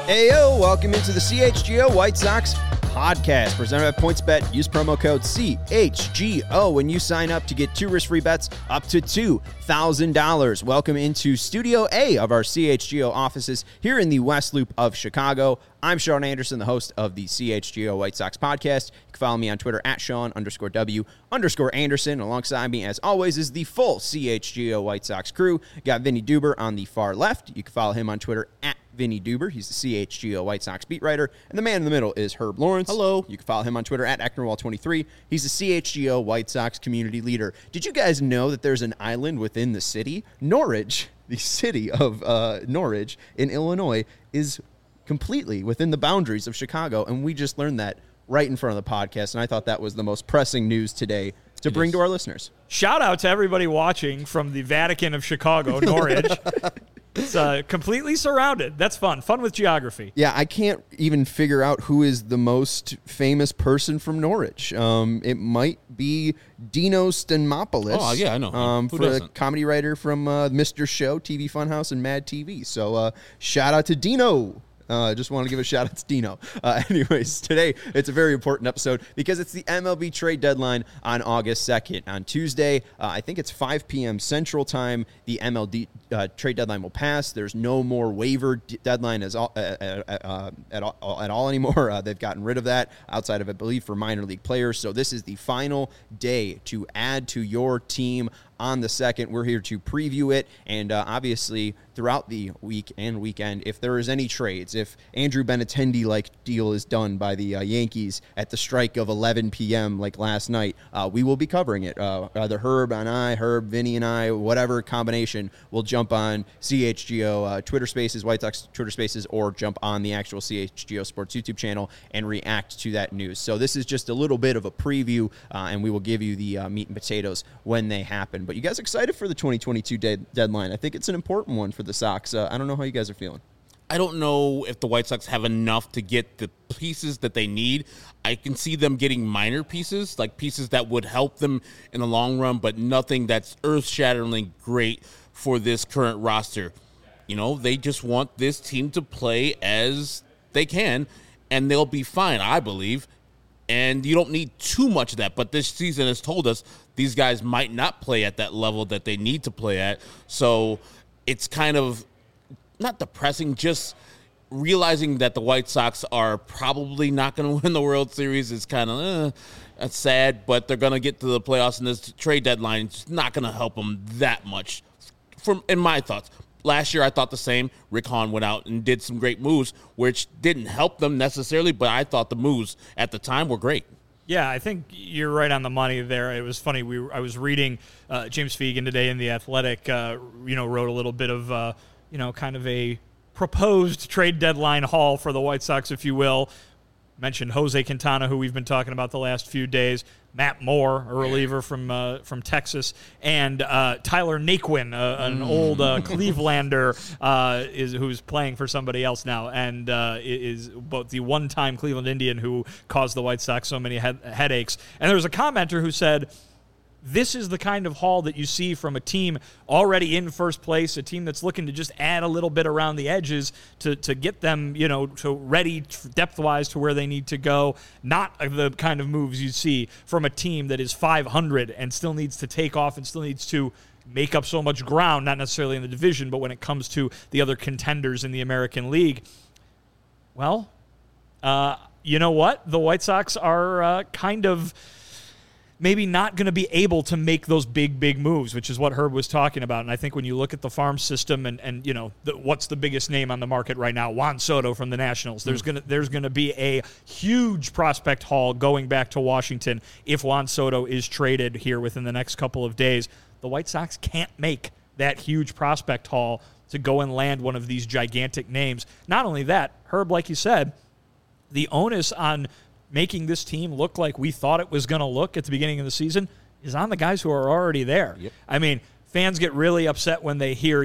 Heyo, welcome into the CHGO White Sox podcast presented by PointsBet. Use promo code CHGO when you sign up to get 2 risk-free bets up to $2,000. Welcome into Studio A of our CHGO offices here in the West Loop of Chicago. I'm Sean Anderson, the host of the CHGO White Sox podcast. You can follow me on Twitter at Sean_W_Anderson. Alongside me, as always, is the full CHGO White Sox crew. Got Vinny Duber on the far left. You can follow him on Twitter at Vinny Duber. He's the CHGO White Sox beat writer. And the man in the middle is Herb Lawrence. Hello. You can follow him on Twitter at Ecknerwall23. He's the CHGO White Sox community leader. Did you guys know that there's an island within the city? Norridge, the city of Norridge in Illinois, is completely within the boundaries of Chicago. And we just learned that right in front of the podcast. And I thought that was the most pressing news today to bring to our listeners. Shout out to everybody watching from the Vatican of Chicago, Norridge. It's completely surrounded. That's fun. Fun with geography. Yeah, I can't even figure out who is the most famous person from Norwich. It might be Dino Stenmopoulos. Oh, yeah, I know. For a comedy writer from Mr. Show, TV Funhouse, and Mad TV. So shout out to Dino. Just want to give a shout out to Dino. Anyways, today it's a very important episode because it's the MLB trade deadline on August 2nd. On Tuesday, I think it's 5 p.m. Central Time, the MLB trade deadline will pass. There's no more waiver deadline at all anymore. They've gotten rid of that outside of, I believe, for minor league players. So this is the final day to add to your team on the 2nd. We're here to preview it, and obviously throughout the week and weekend, if there is any trades, if Andrew Benintendi-like deal is done by the Yankees at the strike of 11 p.m. like last night, we will be covering it. Either Herb, Vinny, and I, whatever combination, will jump on CHGO Twitter Spaces, White Sox Twitter Spaces, or jump on the actual CHGO Sports YouTube channel and react to that news. So this is just a little bit of a preview, and we will give you the meat and potatoes when they happen. But you guys excited for the 2022 deadline? I think it's an important one for the Sox. I don't know how you guys are feeling. I don't know if the White Sox have enough to get the pieces that they need. I can see them getting minor pieces, like pieces that would help them in the long run, but nothing that's earth-shatteringly great for this current roster. You know, they just want this team to play as they can, and they'll be fine, I believe. And you don't need too much of that. But this season has told us these guys might not play at that level that they need to play at. So it's kind of not depressing, just realizing that the White Sox are probably not going to win the World Series is kind of that's sad. But they're going to get to the playoffs, and this trade deadline is not going to help them that much, in my thoughts. Last year, I thought the same. Rick Hahn went out and did some great moves, which didn't help them necessarily, but I thought the moves at the time were great. Yeah, I think you're right on the money there. It was funny. I was reading James Fegan today in The Athletic, wrote a little bit of, kind of a proposed trade deadline haul for the White Sox, if you will. Mentioned Jose Quintana, who we've been talking about the last few days, Matt Moore, a reliever from Texas, and Tyler Naquin, an old Clevelander who's playing for somebody else now, and is both the one-time Cleveland Indian who caused the White Sox so many headaches. And there was a commenter who said, this is the kind of haul that you see from a team already in first place, a team that's looking to just add a little bit around the edges to get them, to ready depth-wise to where they need to go. Not the kind of moves you see from a team that is 500 and still needs to take off and still needs to make up so much ground, not necessarily in the division, but when it comes to the other contenders in the American League. Well, you know what? The White Sox are kind of maybe not going to be able to make those big moves, which is what Herb was talking about. And I think when you look at the farm system and what's the biggest name on the market right now, Juan Soto from the Nationals, there's going to be a huge prospect haul going back to Washington if Juan Soto is traded here within the next couple of days. The White Sox can't make that huge prospect haul to go and land one of these gigantic names. Not only that, Herb, like you said, the onus on making this team look like we thought it was going to look at the beginning of the season is on the guys who are already there. Yep. I mean, fans get really upset when they hear,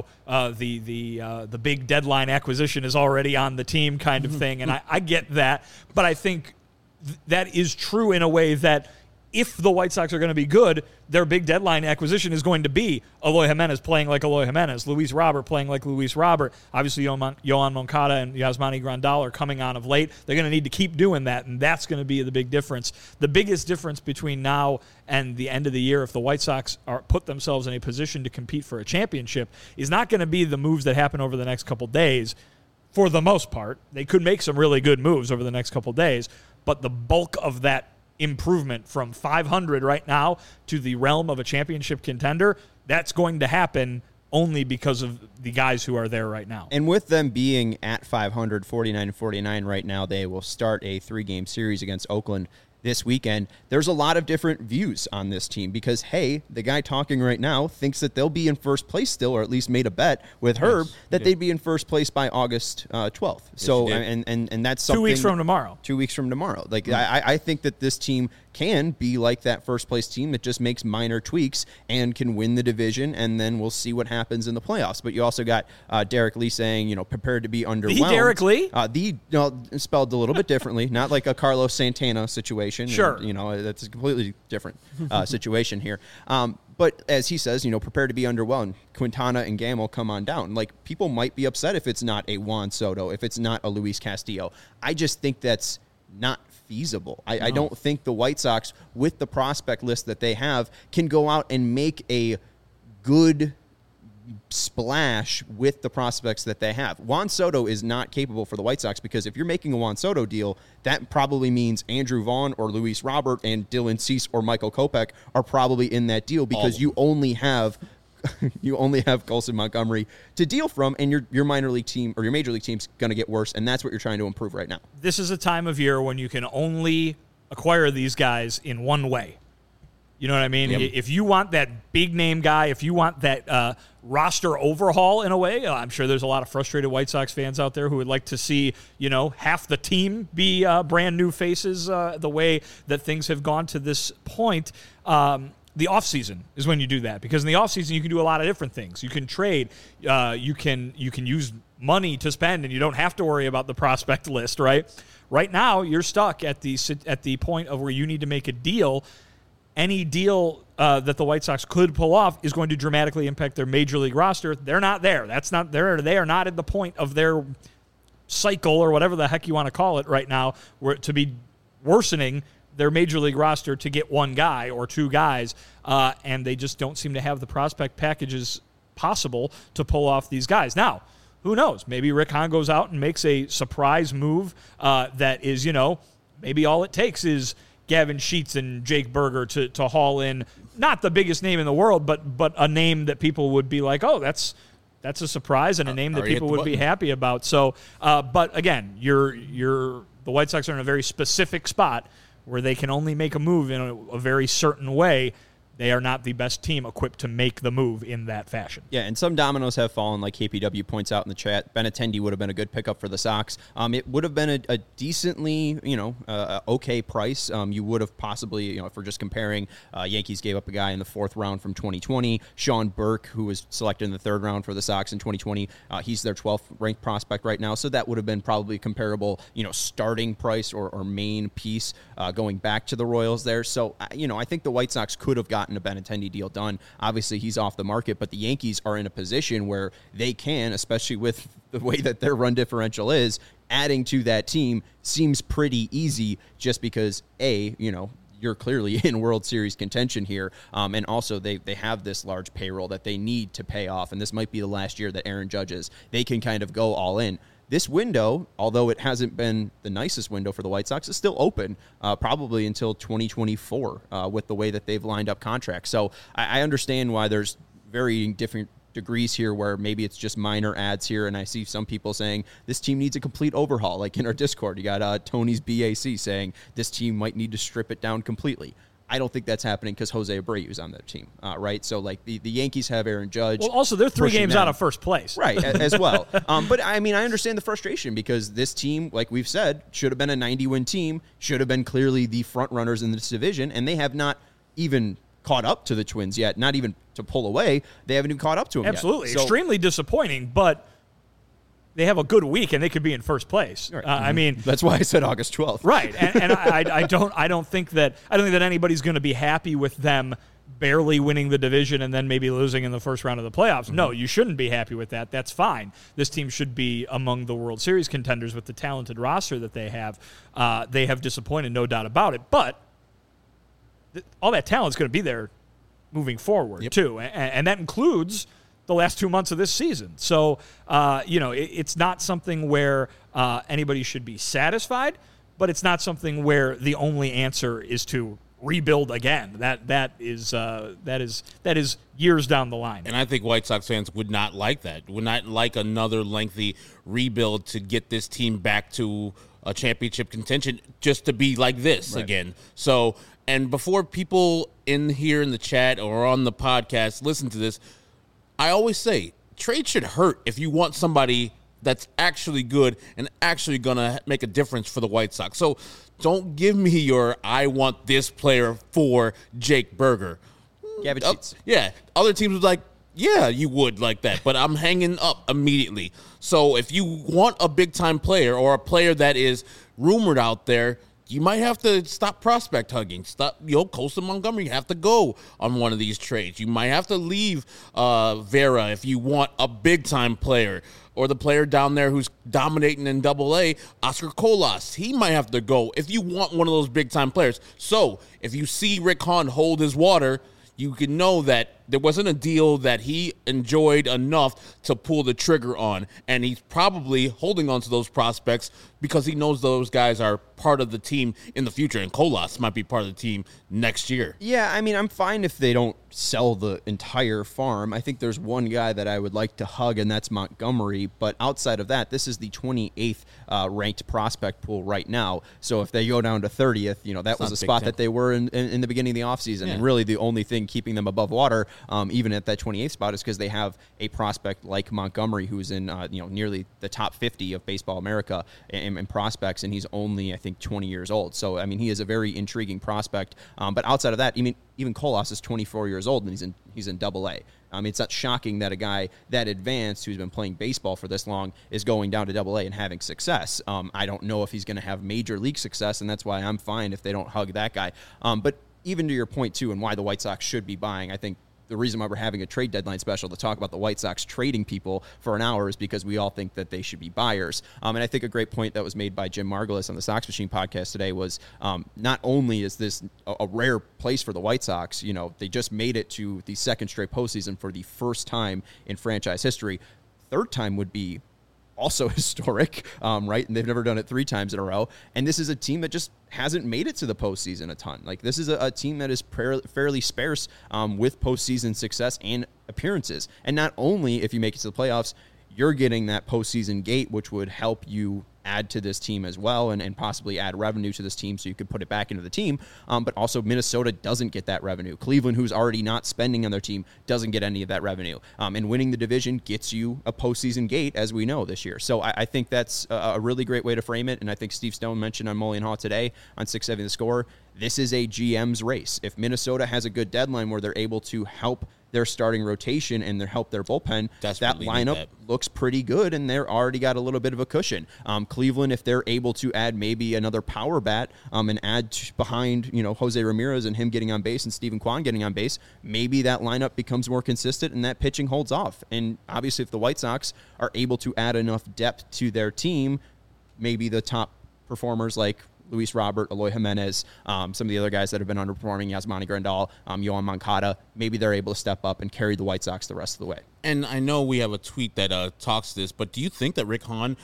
the big deadline acquisition is already on the team kind of thing, and I get that. But I think that is true in a way that if the White Sox are going to be good, their big deadline acquisition is going to be Eloy Jimenez playing like Eloy Jimenez, Luis Robert playing like Luis Robert. Obviously, Yohan Moncada and Yasmani Grandal are coming on of late. They're going to need to keep doing that, and that's going to be the big difference. The biggest difference between now and the end of the year, if the White Sox put themselves in a position to compete for a championship, is not going to be the moves that happen over the next couple days. For the most part, they could make some really good moves over the next couple days, but the bulk of that improvement from 500 right now to the realm of a championship contender, that's going to happen only because of the guys who are there right now. And with them being at 500, 49-49 right now, they will start a 3-game series against Oakland this weekend. There's a lot of different views on this team because, hey, the guy talking right now thinks that they'll be in first place still, or at least made a bet with Herb that they'd be in first place by August 12th. So, and that's something. 2 weeks from tomorrow. 2 weeks from tomorrow. Like, I think that this team can be like that first place team that just makes minor tweaks and can win the division, and then we'll see what happens in the playoffs. But you also got Derek Lee saying, prepared to be underwhelmed. The Derek Lee? Spelled a little bit differently, not like a Carlos Santana situation. Sure. And, that's a completely different situation here. But as he says, prepare to be underwhelmed. Quintana and Gamel come on down. Like, people might be upset if it's not a Juan Soto, if it's not a Luis Castillo. I just think that's not feasible. I don't think the White Sox, with the prospect list that they have, can go out and make a good splash with the prospects that they have. Juan Soto is not capable for the White Sox because if you're making a Juan Soto deal, that probably means Andrew Vaughn or Luis Robert and Dylan Cease or Michael Kopech are probably in that deal because you only have Colson Montgomery to deal from, and your minor league team or your major league team's going to get worse, and that's what you're trying to improve right now. This is a time of year when you can only acquire these guys in one way. You know what I mean? Yep. If you want that big name guy, if you want that roster overhaul in a way, I'm sure there's a lot of frustrated White Sox fans out there who would like to see, half the team be brand new faces the way that things have gone to this point. The offseason is when you do that, because in the offseason you can do a lot of different things. You can trade, you can use money to spend, and you don't have to worry about the prospect list, right? Right now, you're stuck at the point of where you need to make a deal. Any deal that the White Sox could pull off is going to dramatically impact their major league roster. They're not there. They are not at the point of their cycle, or whatever the heck you want to call it right now, where to be worsening their major league roster to get one guy or two guys, and they just don't seem to have the prospect packages possible to pull off these guys. Now, who knows? Maybe Rick Hahn goes out and makes a surprise move that is, maybe all it takes is Gavin Sheets and Jake Berger to haul in, not the biggest name in the world, but a name that people would be like, oh, that's a surprise, and a name that people would be happy about. So, but again, the White Sox are in a very specific spot where they can only make a move in a very certain way. They are not the best team equipped to make the move in that fashion. Yeah, and some dominoes have fallen, like KPW points out in the chat. Benintendi would have been a good pickup for the Sox. It would have been a decently, okay price. You would have possibly, if we're just comparing, Yankees gave up a guy in the 4th round from 2020. Sean Burke, who was selected in the 3rd round for the Sox in 2020. He's their 12th ranked prospect right now, so that would have been probably comparable, starting price or main piece going back to the Royals there. So, I think the White Sox could have gotten a Benintendi deal done. Obviously, he's off the market, but the Yankees are in a position where they can, especially with the way that their run differential is, adding to that team seems pretty easy just because, you're clearly in World Series contention here, and also they have this large payroll that they need to pay off, and this might be the last year that Aaron Judge is. They can kind of go all in. This window, although it hasn't been the nicest window for the White Sox, is still open probably until 2024 with the way that they've lined up contracts. So I understand why there's varying different degrees here where maybe it's just minor ads here, and I see some people saying this team needs a complete overhaul. Like in our Discord, you got Tony's BAC saying this team might need to strip it down completely. I don't think that's happening because Jose Abreu's on that team, right? So, like, the Yankees have Aaron Judge. Well, also, they're 3 games out of first place. Right, as well. But, I understand the frustration because this team, like we've said, should have been a 90-win team, should have been clearly the front runners in this division, and they have not even caught up to the Twins yet, not even to pull away. They haven't even caught up to them Absolutely. yet. So, extremely disappointing, but they have a good week and they could be in first place. Right. I mean, that's why I said August 12th. Right, and I don't think that anybody's going to be happy with them barely winning the division and then maybe losing in the first round of the playoffs. No, you shouldn't be happy with that. That's fine. This team should be among the World Series contenders with the talented roster that they have. They have disappointed, no doubt about it. But all that talent is going to be there moving forward, too. And that includes the last 2 months of this season. So, it's not something where anybody should be satisfied, but it's not something where the only answer is to rebuild again. That is years down the line. And I think White Sox fans would not like that. Would not like another lengthy rebuild to get this team back to a championship contention just to be like this again. So, and before people in here in the chat or on the podcast listen to this, I always say trade should hurt if you want somebody that's actually good and actually going to make a difference for the White Sox. So don't give me your I want this player for Jake Burger. Gavin Sheets. Yeah. Other teams would like, yeah, you would like that, but I'm hanging up immediately. So if you want a big-time player or a player that is rumored out there, you might have to stop prospect hugging. Stop, Colson Montgomery, you have to go on one of these trades. You might have to leave Vera if you want a big-time player. Or the player down there who's dominating in Double-A, Oscar Colas. He might have to go if you want one of those big-time players. So if you see Rick Hahn hold his water, you can know that there wasn't a deal that he enjoyed enough to pull the trigger on. And he's probably holding on to those prospects because he knows those guys are part of the team in the future. And Colas might be part of the team next year. Yeah, I mean, I'm fine if they don't sell the entire farm. I think there's one guy that I would like to hug, and that's Montgomery. But outside of that, this is the 28th ranked prospect pool right now. So if they go down to 30th, that was a spot that they were in the beginning of the offseason. Yeah. And really the only thing keeping them above water, even at that 28th spot, is because they have a prospect like Montgomery who's in nearly the top 50 of Baseball America in prospects, and he's only, I think, 20 years old. So, I mean, he is a very intriguing prospect. But outside of that, even Colas is 24 years old, and he's in Double-A. It's not shocking that a guy that advanced who's been playing baseball for this long is going down to Double-A and having success. I don't know if he's going to have major league success, and that's why I'm fine if they don't hug that guy. But even to your point, too, and why the White Sox should be buying, I think the reason why we're having a trade deadline special to talk about the White Sox trading people for an hour is because we all think that they should be buyers. And I think a great point that was made by Jim Margulis on the Sox Machine podcast today was not only is this a rare place for the White Sox, they just made it to the second straight postseason for the first time in franchise history. Third time would be also historic, right? And they've never done it 3 times in a row. And this is a team that just hasn't made it to the postseason a ton. Like, this is a team that is fairly sparse with postseason success and appearances. And not only if you make it to the playoffs, you're getting that postseason gate, which would help you add to this team as well and possibly add revenue to this team so you could put it back into the team. But also Minnesota doesn't get that revenue. Cleveland, who's already not spending on their team, doesn't get any of that revenue. And winning the division gets you a postseason gate, as we know this year. So I think that's a really great way to frame it. And I think Steve Stone mentioned on Mully and Haw today on 670 The Score, this is a GM's race. If Minnesota has a good deadline where they're able to help their starting rotation and help their bullpen, that lineup looks pretty good, and they're already got a little bit of a cushion. Cleveland, if they're able to add maybe another power bat and add behind Jose Ramirez and him getting on base and Stephen Kwan getting on base, maybe that lineup becomes more consistent and that pitching holds off. And obviously, if the White Sox are able to add enough depth to their team, maybe the top performers like Luis Robert, Eloy Jimenez, some of the other guys that have been underperforming, Yasmani Grandal, Yohan Moncada, maybe they're able to step up and carry the White Sox the rest of the way. And I know we have a tweet that talks this, but do you think that Rick Hahn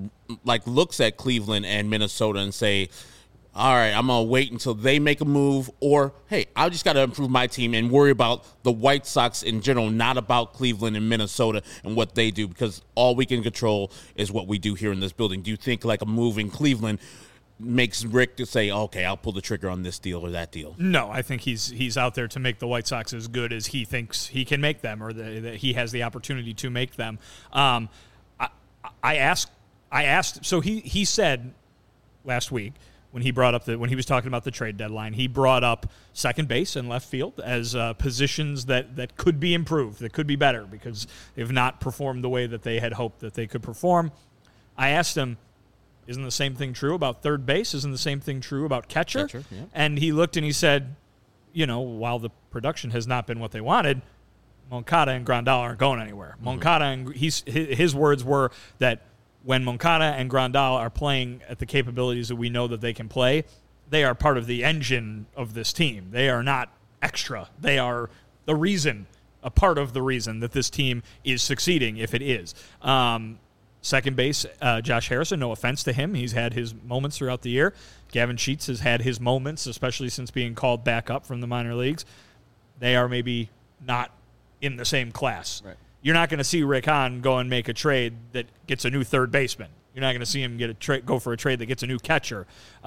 looks at Cleveland and Minnesota and say, all right, I'm going to wait until they make a move, or, hey, I just got to improve my team and worry about the White Sox in general, not about Cleveland and Minnesota and what they do, because all we can control is what we do here in this building. Do you think like a move in Cleveland makes Rick to say, okay, I'll pull the trigger on this deal or that deal? No, I think he's out there to make the White Sox as good as he thinks he can make them, or that he has the opportunity to make them. I asked. So he said last week when he was talking about the trade deadline, he brought up second base and left field as positions that could be improved, that could be better because they've not performed the way that they had hoped that they could perform. I asked him, isn't the same thing true about third base? Isn't the same thing true about catcher? Yeah. And he looked and he said, while the production has not been what they wanted, Moncada and Grandal aren't going anywhere. Moncada and his words were that when Moncada and Grandal are playing at the capabilities that we know that they can play, they are part of the engine of this team. They are not extra. They are a part of the reason that this team is succeeding, if it is. Second base, Josh Harrison, no offense to him. He's had his moments throughout the year. Gavin Sheets has had his moments, especially since being called back up from the minor leagues. They are maybe not in the same class. Right. You're not going to see Rick Hahn go and make a trade that gets a new third baseman. You're not going to see him go for a trade that gets a new catcher.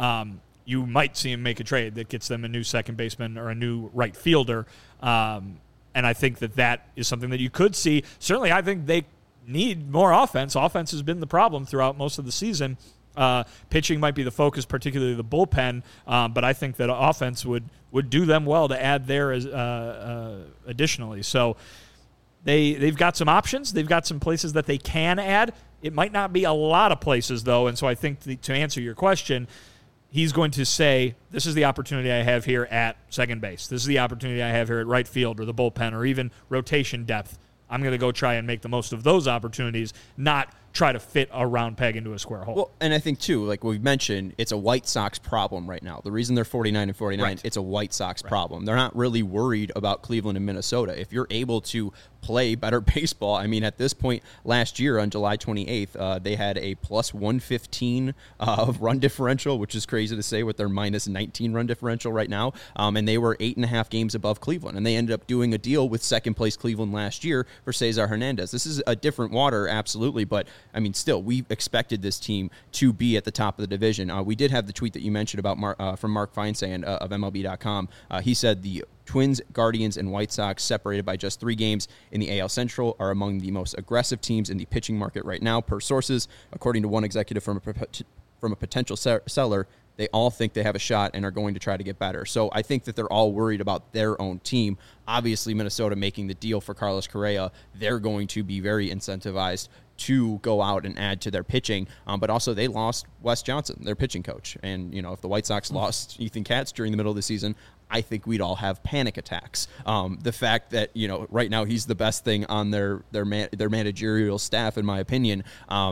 You might see him make a trade that gets them a new second baseman or a new right fielder. And I think that is something that you could see. Certainly, I think they need more offense. Offense has been the problem throughout most of the season. Pitching might be the focus, particularly the bullpen, but I think that offense would do them well to add there additionally. So they've got some options. They've got some places that they can add. It might not be a lot of places, though, and so I think to answer your question, he's going to say, this is the opportunity I have here at second base. This is the opportunity I have here at right field or the bullpen or even rotation depth. I'm going to go try and make the most of those opportunities, not try to fit a round peg into a square hole. Well, and I think, too, like we've mentioned, it's a White Sox problem right now. The reason they're 49-49, Right. It's a White Sox problem. They're not really worried about Cleveland and Minnesota. If you're able to play better baseball, I mean, at this point last year on July 28th, they had a plus 115 run differential, which is crazy to say with their minus 19 run differential right now. And they were 8.5 games above Cleveland. And they ended up doing a deal with second place Cleveland last year for Cesar Hernandez. This is a different water, absolutely, but I mean, still, we expected this team to be at the top of the division. We did have the tweet that you mentioned about from Mark Feinsand of MLB.com. He said the Twins, Guardians, and White Sox, separated by just 3 games in the AL Central, are among the most aggressive teams in the pitching market right now, per sources. According to one executive from a potential seller, they all think they have a shot and are going to try to get better. So I think that they're all worried about their own team. Obviously, Minnesota making the deal for Carlos Correa, they're going to be very incentivized to go out and add to their pitching. But also they lost Wes Johnson, their pitching coach. And, if the White Sox lost Ethan Katz during the middle of the season, I think we'd all have panic attacks. The fact that, right now he's the best thing on their managerial staff, in my opinion,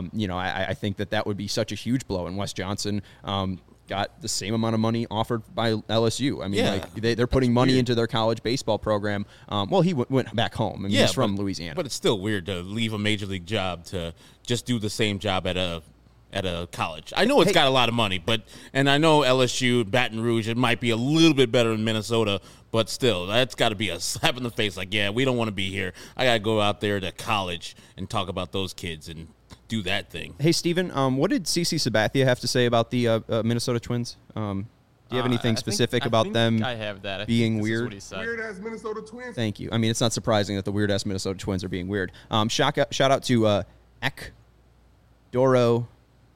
I think that would be such a huge blow. And Wes Johnson got the same amount of money offered by LSU. I mean, they're putting money into their college baseball program. He went back home. I mean, he's from Louisiana. But it's still weird to leave a major league job to just do the same job at a college. I know it's got a lot of money, and I know LSU, Baton Rouge, it might be a little bit better than Minnesota, but still, that's got to be a slap in the face. Like, yeah, we don't want to be here. I got to go out there to college and talk about those kids and do that thing. Hey, Steven, what did CC Sabathia have to say about the Minnesota Twins? Do you have anything specific about them I have that. being weird? Weird-ass Minnesota Twins. Thank you. I mean, it's not surprising that the weird-ass Minnesota Twins are being weird. Shout out to Doro.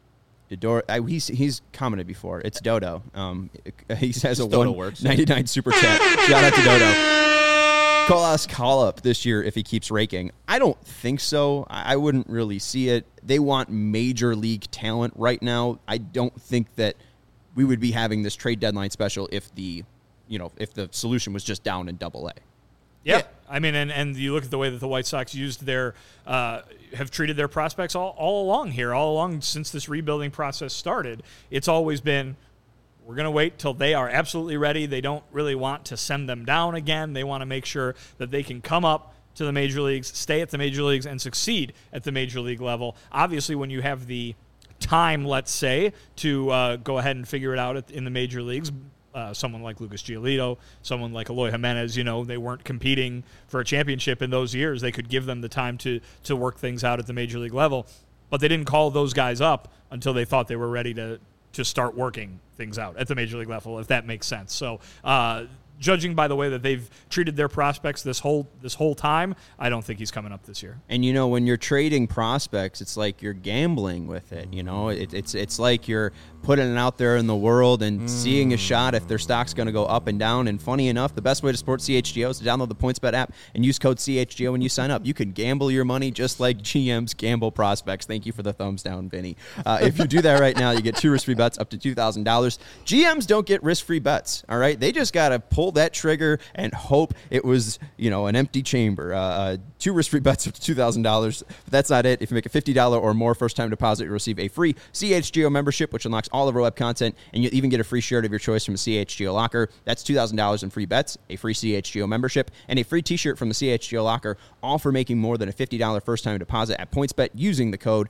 He's commented before. It's Dodo. He has a Dodo works. 199 super chat. Shout out to Dodo. Colas call up this year if he keeps raking. I don't think so. I wouldn't really see it. They want major league talent right now. I don't think that we would be having this trade deadline special if the solution was just down in Double-A. Yeah. I mean, and you look at the way that the White Sox used have treated their prospects all along since this rebuilding process started. It's always been, we're going to wait till they are absolutely ready. They don't really want to send them down again. They want to make sure that they can come up to the major leagues, stay at the major leagues, and succeed at the major league level. Obviously, when you have the time, let's say, to go ahead and figure it out in the major leagues, someone like Lucas Giolito, someone like Eloy Jimenez, they weren't competing for a championship in those years. They could give them the time to work things out at the major league level. But they didn't call those guys up until they thought they were ready to start working things out at the major league level, if that makes sense. So judging by the way that they've treated their prospects this whole time, I don't think he's coming up this year. And when you're trading prospects, it's like you're gambling with it. It's like you're putting it out there in the world and seeing a shot if their stock's going to go up and down. And funny enough, the best way to support CHGO is to download the PointsBet app and use code CHGO when you sign up. You can gamble your money just like GMs gamble prospects. Thank you for the thumbs down, Vinny. If you do that right now, you get 2 risk-free bets up to $2,000. GMs don't get risk-free bets, all right? They just got to pull that trigger and hope it was, an empty chamber. 2 risk-free bets up to $2,000. But that's not it. If you make a $50 or more first-time deposit, you'll receive a free CHGO membership, which unlocks all of our web content, and you'll even get a free shirt of your choice from the CHGO Locker. That's $2,000 in free bets, a free CHGO membership, and a free t-shirt from the CHGO Locker, all for making more than a $50 first-time deposit at PointsBet using the code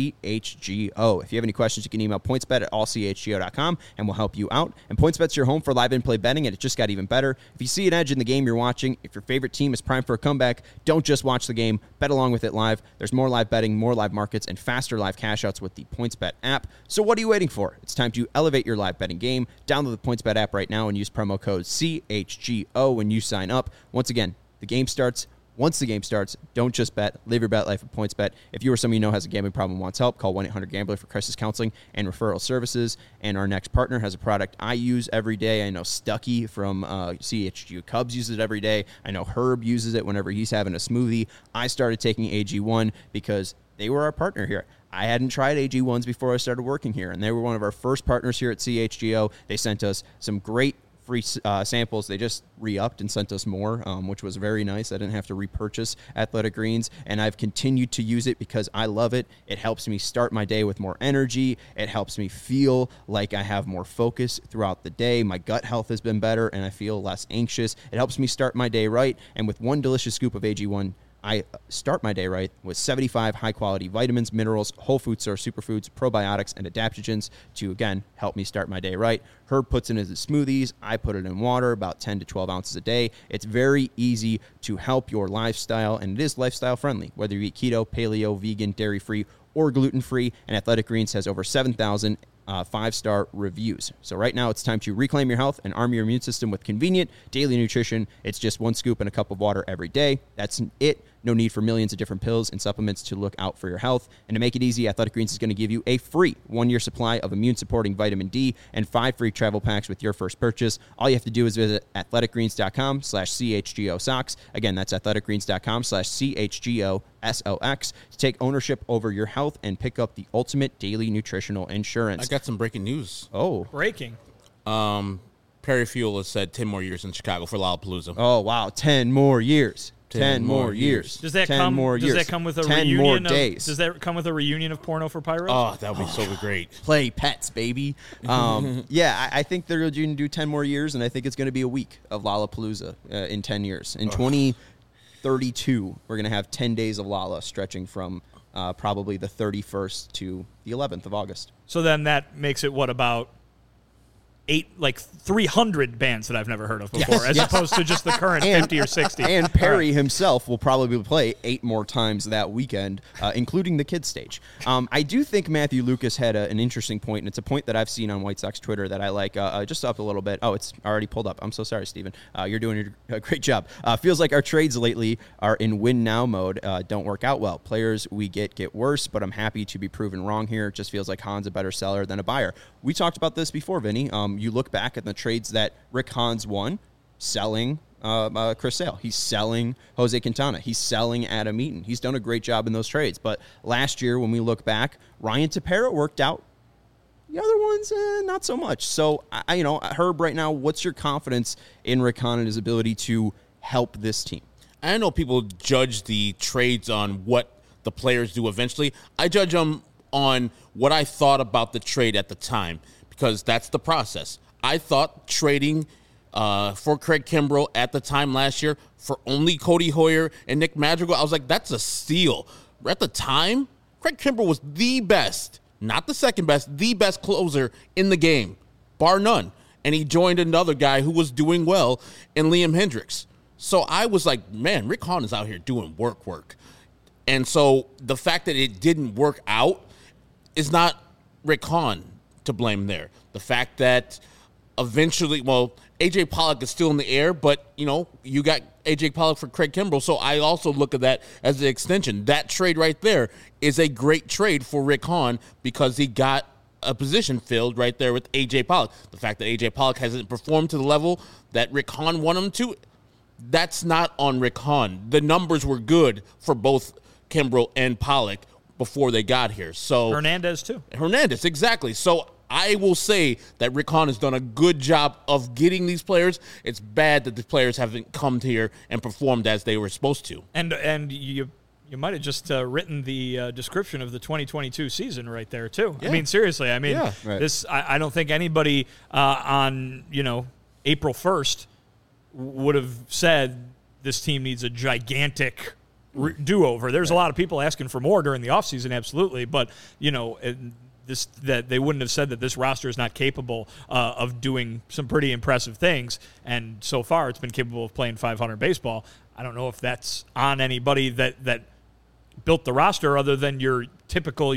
CHGO. If you have any questions, you can email pointsbet@allchgo.com, and we'll help you out. And PointsBet's your home for live in-play betting, and it just got even better. If you see an edge in the game you're watching, if your favorite team is primed for a comeback, don't just watch the game, bet along with it live. There's more live betting, more live markets, and faster live cash-outs with the PointsBet app. So what are you waiting for? It's time to elevate your live betting game. Download the PointsBet app right now and use promo code CHGO when you sign up. Once again, the game starts. Once the game starts, don't just bet. Live your bet life at PointsBet. If you or someone you know has a gambling problem and wants help, call 1-800-GAMBLER for crisis counseling and referral services. And our next partner has a product I use every day. I know Stuckey from CHGO Cubs uses it every day. I know Herb uses it whenever he's having a smoothie. I started taking AG1 because they were our partner here. I hadn't tried AG1s before I started working here, and they were one of our first partners here at CHGO. They sent us some great free samples. They just re-upped and sent us more, which was very nice. I didn't have to repurchase Athletic Greens, and I've continued to use it because I love it. It helps me start my day with more energy. It helps me feel like I have more focus throughout the day. My gut health has been better, and I feel less anxious. It helps me start my day right, and with one delicious scoop of AG1, I start my day right with 75 high-quality vitamins, minerals, whole food source superfoods, probiotics, and adaptogens to, again, help me start my day right. Herb puts it in his smoothies. I put it in water, about 10 to 12 ounces a day. It's very easy to help your lifestyle, and it is lifestyle-friendly, whether you eat keto, paleo, vegan, dairy-free, or gluten-free, and Athletic Greens has over 7,000 5-star reviews. So right now it's time to reclaim your health and arm your immune system with convenient daily nutrition. It's just 1 scoop and a cup of water every day. That's it. No need for millions of different pills and supplements to look out for your health. And to make it easy, Athletic Greens is going to give you a free 1-year supply of immune-supporting vitamin D and 5 free travel packs with your first purchase. All you have to do is visit athleticgreens.com/CHGO-SOCKS. Again, that's athleticgreens.com/CHGO-SOX to take ownership over your health and pick up the ultimate daily nutritional insurance. I got some breaking news. Oh. Breaking. Perry Fuel has said 10 more years in Chicago for Lollapalooza. Oh, wow. 10 more years. 10 more years. Does that 10 come? more Does years. that come with a 10 reunion? more of, days. Does that come with a reunion of Porno for Pyros? Oh, that would be so great. Play pets, baby. Yeah, I think they're going to do 10 more years, and I think it's going to be a week of Lollapalooza in 10 years. In 2032, we're going to have 10 days of Lolla stretching from probably the 31st to the 11th of August. So then that makes it what about 300 bands that I've never heard of before, as opposed to just the current 50 or 60. And Perry himself will probably play 8 more times that weekend, including the kids stage. I do think Matthew Lucas had an interesting point, and it's a point that I've seen on White Sox Twitter that I like just up a little bit. Oh, it's already pulled up. I'm so sorry, Steven. You're doing a great job. Feels like our trades lately are in win-now mode. Don't work out well. Players we get worse, but I'm happy to be proven wrong here. It just feels like Hahn's a better seller than a buyer. We talked about this before, Vinny. You look back at the trades that Rick Hahn's won, selling Chris Sale. He's selling Jose Quintana. He's selling Adam Eaton. He's done a great job in those trades. But last year, when we look back, Ryan Tepera worked out. The other ones, not so much. So, Herb, right now, what's your confidence in Rick Hahn and his ability to help this team? I know people judge the trades on what the players do eventually. I judge them on what I thought about the trade at the time, because that's the process. I thought trading for Craig Kimbrell at the time last year for only Cody Hoyer and Nick Madrigal, I was like, that's a steal. At the time, Craig Kimbrell was the best, not the second best, the best closer in the game, bar none. And he joined another guy who was doing well in Liam Hendriks. So I was like, man, Rick Hahn is out here doing work. And so the fact that it didn't work out is not Rick Hahn to blame there. The fact that eventually, A.J. Pollock is still in the air, but, you got A.J. Pollock for Craig Kimbrell, so I also look at that as an extension. That trade right there is a great trade for Rick Hahn because he got a position filled right there with A.J. Pollock. The fact that A.J. Pollock hasn't performed to the level that Rick Hahn wanted him to, that's not on Rick Hahn. The numbers were good for both Kimbrell and Pollock before they got here. So Hernandez, too. Hernandez, exactly. So I will say that Rick Hahn has done a good job of getting these players. It's bad that the players haven't come here and performed as they were supposed to. And you might have just written the description of the 2022 season right there, too. Yeah. I mean, seriously. I mean, Yeah. Right. this. I don't think anybody on, April 1st would have said this team needs a gigantic do-over. There's a lot of people asking for more during the offseason, absolutely. But, that they wouldn't have said that this roster is not capable of doing some pretty impressive things, and so far it's been capable of playing 500 baseball. I don't know if that's on anybody that built the roster other than your typical,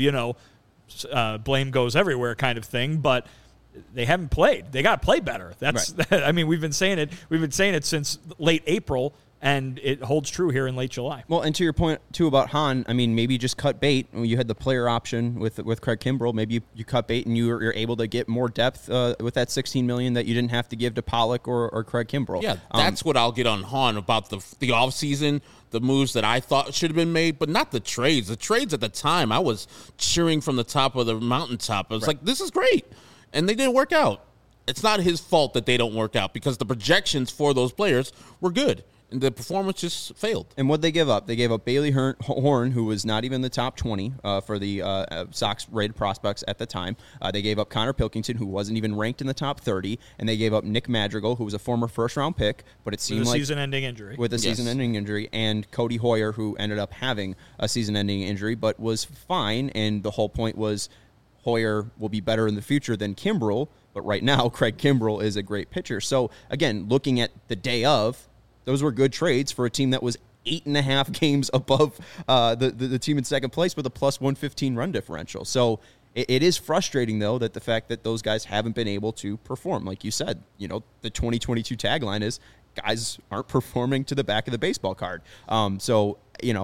blame goes everywhere kind of thing, but they haven't played. They got to play better. That's right. I mean, we've been saying it. We've been saying it since late April. And it holds true here in late July. Well, and to your point, too, about Hahn, I mean, maybe just cut bait. You had the player option with Craig Kimbrell. Maybe you cut bait and you're able to get more depth with that $16 million that you didn't have to give to Pollock or Craig Kimbrell. Yeah, that's what I'll get on Hahn about the offseason, the moves that I thought should have been made, but not the trades. The trades at the time, I was cheering from the top of the mountaintop. I was like, this is great. And they didn't work out. It's not his fault that they don't work out because the projections for those players were good. And the performance just failed. And what'd they give up? They gave up Bailey Horn, who was not even in the top 20 for the Sox rated prospects at the time. They gave up Connor Pilkington, who wasn't even ranked in the top 30. And they gave up Nick Madrigal, who was a former first-round pick, but it seemed with a like season-ending injury. With a season-ending injury. And Cody Hoyer, who ended up having a season-ending injury, but was fine. And the whole point was Hoyer will be better in the future than Kimbrell. But right now, Craig Kimbrell is a great pitcher. So, again, looking at the day of, those were good trades for a team that was 8.5 games above the team in second place with a plus 115 run differential. So it is frustrating, though, that the fact that those guys haven't been able to perform. Like you said, the 2022 tagline is guys aren't performing to the back of the baseball card. So,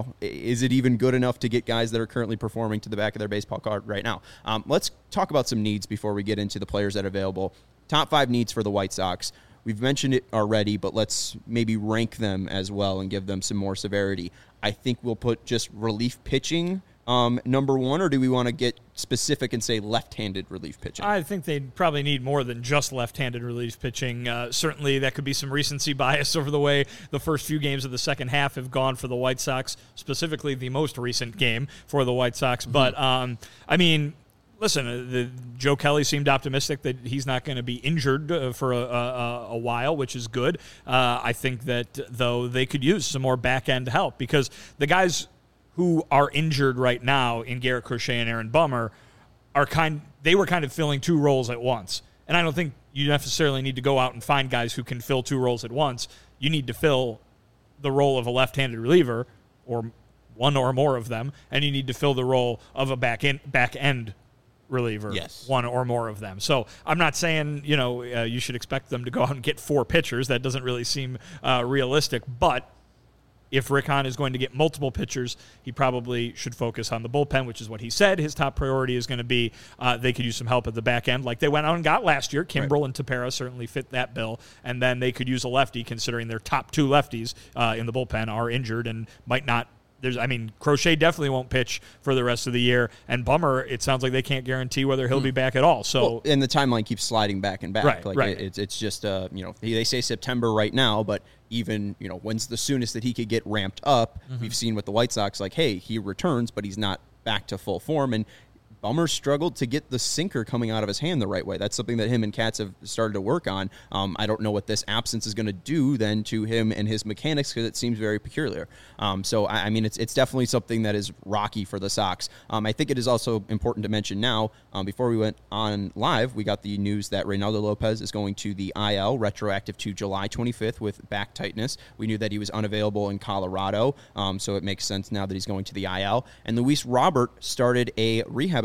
is it even good enough to get guys that are currently performing to the back of their baseball card right now? Let's talk about some needs before we get into the players that are available. Top 5 needs for the White Sox. We've mentioned it already, but let's maybe rank them as well and give them some more severity. I think we'll put just relief pitching number 1, or do we want to get specific and say left-handed relief pitching? I think they probably need more than just left-handed relief pitching. Certainly, that could be some recency bias over the way the first few games of the second half have gone for the White Sox, specifically the most recent game for the White Sox. Mm-hmm. But, listen, Joe Kelly seemed optimistic that he's not going to be injured for a while, which is good. I think that, though, they could use some more back-end help because the guys who are injured right now in Garrett Crochet and Aaron Bummer they were kind of filling 2 roles at once. And I don't think you necessarily need to go out and find guys who can fill 2 roles at once. You need to fill the role of a left-handed reliever or one or more of them, and you need to fill the role of a back-end reliever, yes, 1 or more of them. So I'm not saying, you should expect them to go out and get 4 pitchers. That doesn't really seem realistic. But if Rick Hahn is going to get multiple pitchers, he probably should focus on the bullpen, which is what he said. His top priority is going to be they could use some help at the back end like they went out and got last year. Kimbrell and Tepera certainly fit that bill. And then they could use a lefty, considering their top 2 lefties in the bullpen are injured and might not. Crochet definitely won't pitch for the rest of the year, and Bummer, it sounds like they can't guarantee whether he'll be back at all. So, and the timeline keeps sliding back and back. Right. It's just they say September right now, but even when's the soonest that he could get ramped up? Mm-hmm. We've seen with the White Sox, like, hey, he returns, but he's not back to full form, and Bummer struggled to get the sinker coming out of his hand the right way. That's something that him and Katz have started to work on. I don't know what this absence is going to do then to him and his mechanics because it seems very peculiar. It's definitely something that is rocky for the Sox. I think it is also important to mention now, before we went on live, we got the news that Reynaldo Lopez is going to the IL, retroactive to July 25th with back tightness. We knew that he was unavailable in Colorado, so it makes sense now that he's going to the IL. And Luis Robert started a rehab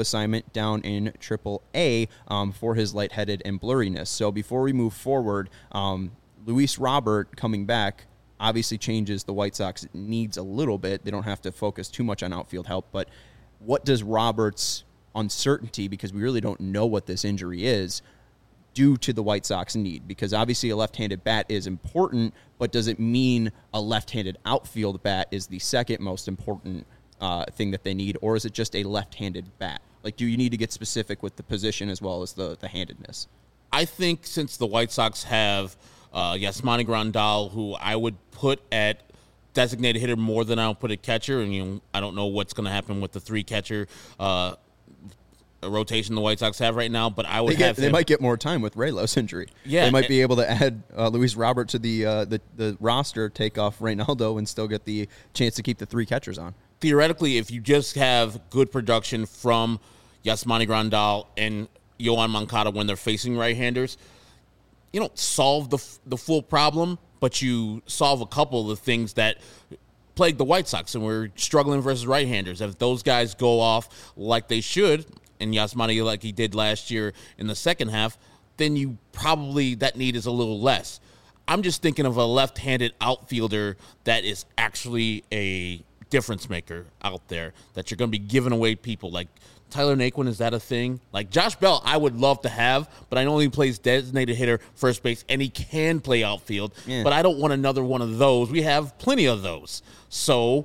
assignment down in Triple-A for his lightheaded and blurriness. So before we move forward, Luis Robert coming back obviously changes the White Sox needs a little bit. They don't have to focus too much on outfield help, but what does Robert's uncertainty, because we really don't know what this injury is, do to the White Sox need? Because obviously a left-handed bat is important, but does it mean a left-handed outfield bat is the second most important thing that they need, or is it just a left-handed bat? Like, do you need to get specific with the position as well as the handedness? I think since the White Sox have Yasmani Grandal, who I would put at designated hitter more than I'll put at catcher, and I don't know what's going to happen with the 3-catcher rotation the White Sox have right now, but I would they might get more time with Raylos' injury. Yeah, they might be able to add Luis Robert to the roster, take off Reynaldo, and still get the chance to keep the 3 catchers on. Theoretically, if you just have good production from Yasmani Grandal and Yoan Moncada when they're facing right-handers, you don't solve the full problem, but you solve a couple of the things that plague the White Sox, and we're struggling versus right-handers. If those guys go off like they should, and Yasmani like he did last year in the second half, then you probably, that need is a little less. I'm just thinking of a left-handed outfielder that is actually a difference maker out there, that you're going to be giving away people. Like Tyler Naquin, is that a thing? Like Josh Bell, I would love to have, but I know he plays designated hitter, first base, and he can play outfield, but I don't want another one of those. We have plenty of those. So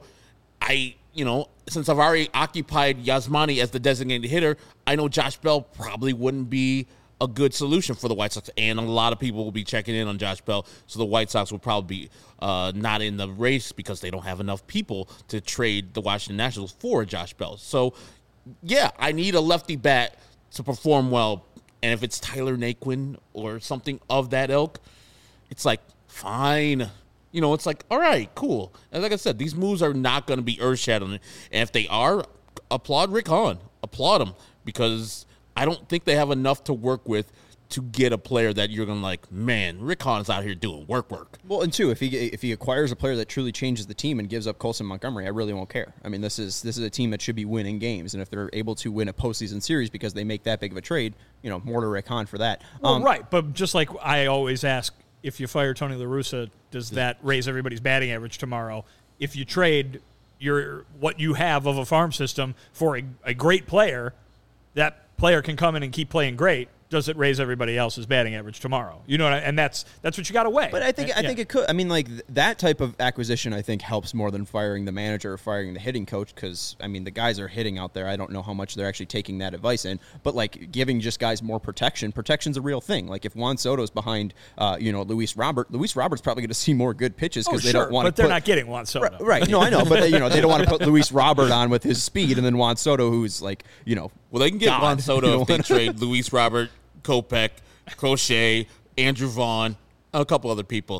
since I've already occupied Yasmani as the designated hitter, I know Josh Bell probably wouldn't be a good solution for the White Sox, and a lot of people will be checking in on Josh Bell, so the White Sox will probably be not in the race because they don't have enough people to trade the Washington Nationals for Josh Bell. So, yeah, I need a lefty bat to perform well, and if it's Tyler Naquin or something of that ilk, it's like, fine. It's like, all right, cool. And like I said, these moves are not going to be earth-shattering, and if they are, applaud Rick Hahn. Applaud him, because I don't think they have enough to work with to get a player that you're going to like, man, Rick Hahn's out here doing work. Well, and two, if he acquires a player that truly changes the team and gives up Colson Montgomery, I really won't care. I mean, this is a team that should be winning games, and if they're able to win a postseason series because they make that big of a trade, more to Rick Hahn for that. Well, right, but just like I always ask, if you fire Tony La Russa, does that raise everybody's batting average tomorrow? If you trade what you have of a farm system for a great player, that player can come in and keep playing great. Does it raise everybody else's batting average tomorrow? And that's what you got to weigh. But I think it could. I mean, like that type of acquisition, I think helps more than firing the manager or firing the hitting coach, because I mean the guys are hitting out there. I don't know how much they're actually taking that advice in, but like giving just guys more protection. Protection's a real thing. Like if Juan Soto's behind, Luis Robert's probably going to see more good pitches because they don't want to. But they're not getting Juan Soto. Right. No, I know, but they don't want to put Luis Robert on with his speed and then Juan Soto, who's like, Well, they can get Juan Soto if they trade Luis Robert, Kopech, Crochet, Andrew Vaughn, a couple other people.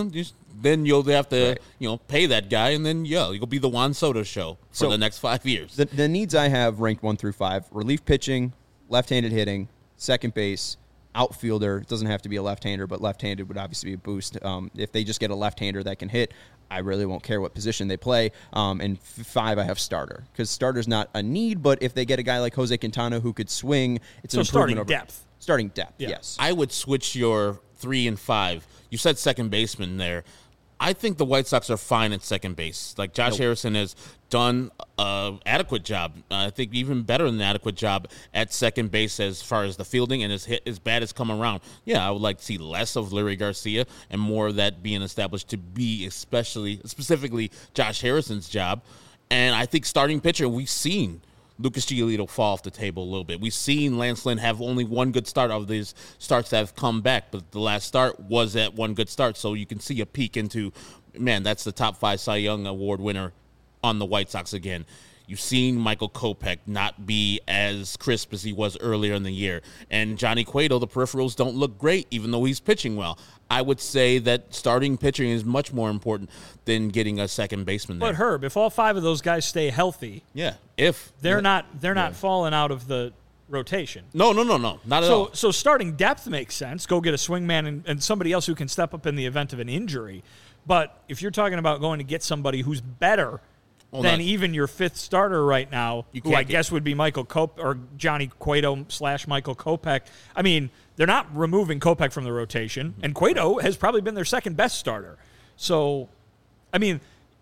Then you'll have to, pay that guy, and then you'll be the Juan Soto show for the next 5 years. The needs I have ranked 1 through 5: relief pitching, left-handed hitting, second base, outfielder. It doesn't have to be a left-hander, but left-handed would obviously be a boost. If they just get a left-hander that can hit, I really won't care what position they play. And 5, I have starter, because starter's not a need, but if they get a guy like Jose Quintana who could swing, it's an improvement over depth. Starting depth, yes. I would switch your 3 and 5. You said second baseman there. I think the White Sox are fine at second base. Like Josh Harrison has done an adequate job. I think even better than an adequate job at second base as far as the fielding, and his bat has come around. Yeah, I would like to see less of Larry Garcia and more of that being established to be specifically Josh Harrison's job. And I think starting pitcher, we've seen Lucas Giolito fall off the table a little bit. We've seen Lance Lynn have only one good start of these starts that have come back, but the last start was that one good start, so you can see a peek into, man, that's the top 5 Cy Young Award winner on the White Sox again. You've seen Michael Kopech not be as crisp as he was earlier in the year. And Johnny Cueto, the peripherals don't look great, even though he's pitching well. I would say that starting pitching is much more important than getting a second baseman there. But Herb, if all 5 of those guys stay healthy, if they're not falling out of the rotation. No, not at all. So starting depth makes sense. Go get a swingman and somebody else who can step up in the event of an injury. But if you're talking about going to get somebody who's better than even your fifth starter right now, who I guess would be Michael or Johnny Cueto / Michael Kopech. I mean, they're not removing Kopech from the rotation, and Cueto has probably been their second best starter. So, I mean,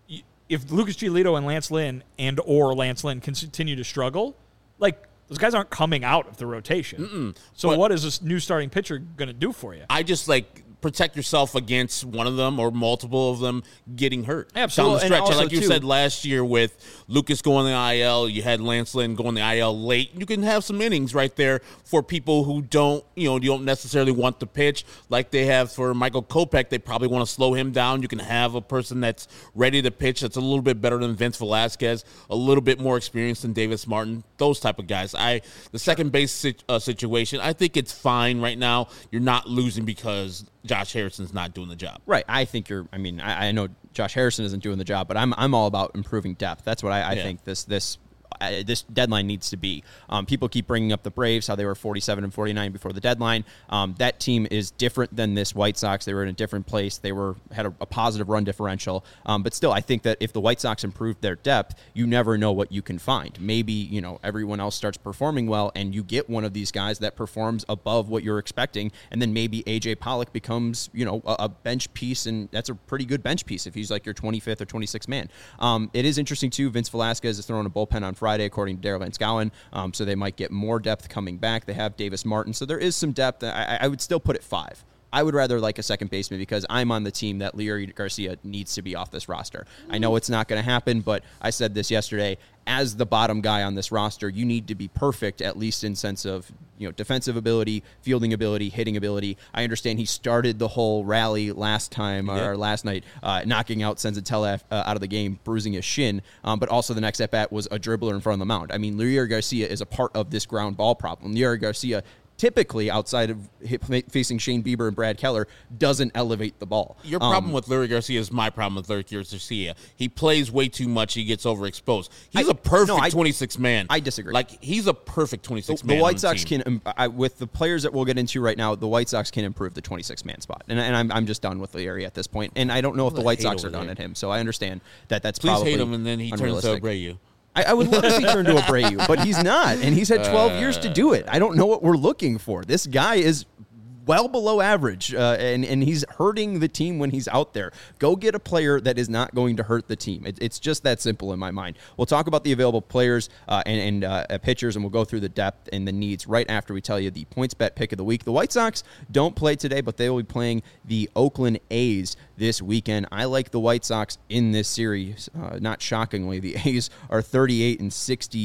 if Lucas Giolito and Lance Lynn or Lance Lynn continue to struggle, like, those guys aren't coming out of the rotation. So what is this new starting pitcher going to do for you? I just, protect yourself against one of them or multiple of them getting hurt. Absolutely. Down the stretch. And like you said last year with Lucas going to the IL, you had Lance Lynn going to the IL late. You can have some innings right there for people who don't necessarily want to pitch like they have for Michael Kopech. They probably want to slow him down. You can have a person that's ready to pitch that's a little bit better than Vince Velasquez, a little bit more experienced than Davis Martin, those type of guys. The second base situation, I think it's fine right now. You're not losing because Josh Harrison's not doing the job. Right. I think I know Josh Harrison isn't doing the job, but I'm all about improving depth. That's what I think this deadline needs to be. People keep bringing up the Braves, how they were 47 and 49 before the deadline. That team is different than this White Sox. They were in a different place. They had a positive run differential. But still, I think that if the White Sox improve their depth, you never know what you can find. Maybe, everyone else starts performing well and you get one of these guys that performs above what you're expecting. And then maybe AJ Pollock becomes, a bench piece, and that's a pretty good bench piece if he's like your 25th or 26th man. It is interesting too. Vince Velasquez is throwing a bullpen on Friday, according to Daryl Van Schouwen, so they might get more depth coming back. They have Davis Martin, so there is some depth. I would still put it 5. I would rather like a second baseman because I'm on the team that Leury Garcia needs to be off this roster. I know it's not going to happen, but I said this yesterday. As the bottom guy on this roster, you need to be perfect, at least in sense of defensive ability, fielding ability, hitting ability. I understand he started the whole rally last night, knocking out Senzatella out of the game, bruising his shin. But also the next at bat was a dribbler in front of the mound. I mean, Leury Garcia is a part of this ground ball problem. Leury Garcia, typically, outside of facing Shane Bieber and Brad Keller, doesn't elevate the ball. Your problem with Leury Garcia is my problem with Leury Garcia. He plays way too much. He gets overexposed. He's a perfect 26 man. I disagree. He's a perfect 26 man. The White Sox can, with the players that we'll get into right now, the White Sox can improve the 26 man spot. And I'm just done with Leury at this point. And I don't know if the White Sox are done at him. So I understand that's probably hate him, and then he turns to Abreu. I would love to see turn to Abreu, but he's not, and he's had 12 years to do it. I don't know what we're looking for. This guy is well below average, and he's hurting the team when he's out there. Go get a player that is not going to hurt the team. It's just that simple in my mind. We'll talk about the available players and pitchers, and we'll go through the depth and the needs right after we tell you the PointsBet pick of the week. The White Sox don't play today, but they will be playing the Oakland A's this weekend. I like the White Sox in this series. Not shockingly, the A's are 38 and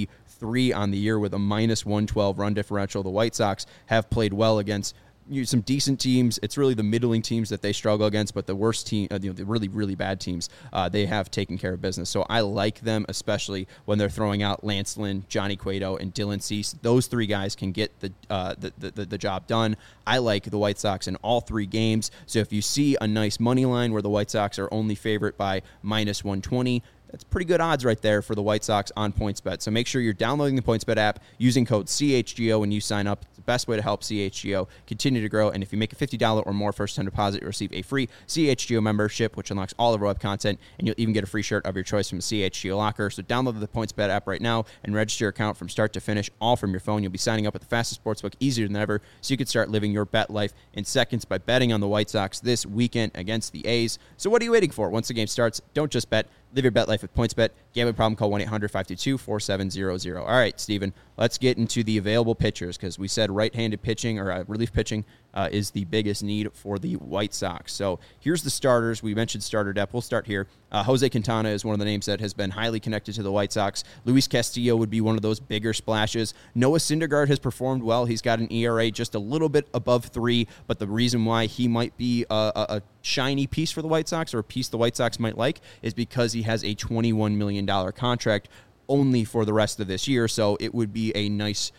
63 on the year with a minus 112 run differential. The White Sox have played well against some decent teams. It's really the middling teams that they struggle against, but the worst team, the really, really bad teams, they have taken care of business. So I like them, especially when they're throwing out Lance Lynn, Johnny Cueto, and Dylan Cease. Those three guys can get the job done. I like the White Sox in all 3 games. So if you see a nice money line where the White Sox are only favorite by minus 120, that's pretty good odds right there for the White Sox on PointsBet. So make sure you're downloading the PointsBet app, using code CHGO when you sign up. It's the best way to help CHGO continue to grow. And if you make a $50 or more first-time deposit, you'll receive a free CHGO membership, which unlocks all of our web content, and you'll even get a free shirt of your choice from a CHGO locker. So download the PointsBet app right now and register your account from start to finish, all from your phone. You'll be signing up at the fastest sportsbook easier than ever, so you can start living your bet life in seconds by betting on the White Sox this weekend against the A's. So what are you waiting for? Once the game starts, don't just bet. Live your bet life with PointsBet. Gambling problem, call 1-800-522-4700. All right, Steven, let's get into the available pitchers because we said right-handed pitching or relief pitching is the biggest need for the White Sox. So here's the starters. We mentioned starter depth. We'll start here. Jose Quintana is one of the names that has been highly connected to the White Sox. Luis Castillo would be one of those bigger splashes. Noah Syndergaard has performed well. He's got an ERA just a little bit above 3, but the reason why he might be a shiny piece for the White Sox, or a piece the White Sox might like, is because he has a $21 million contract only for the rest of this year. So it would be a nice,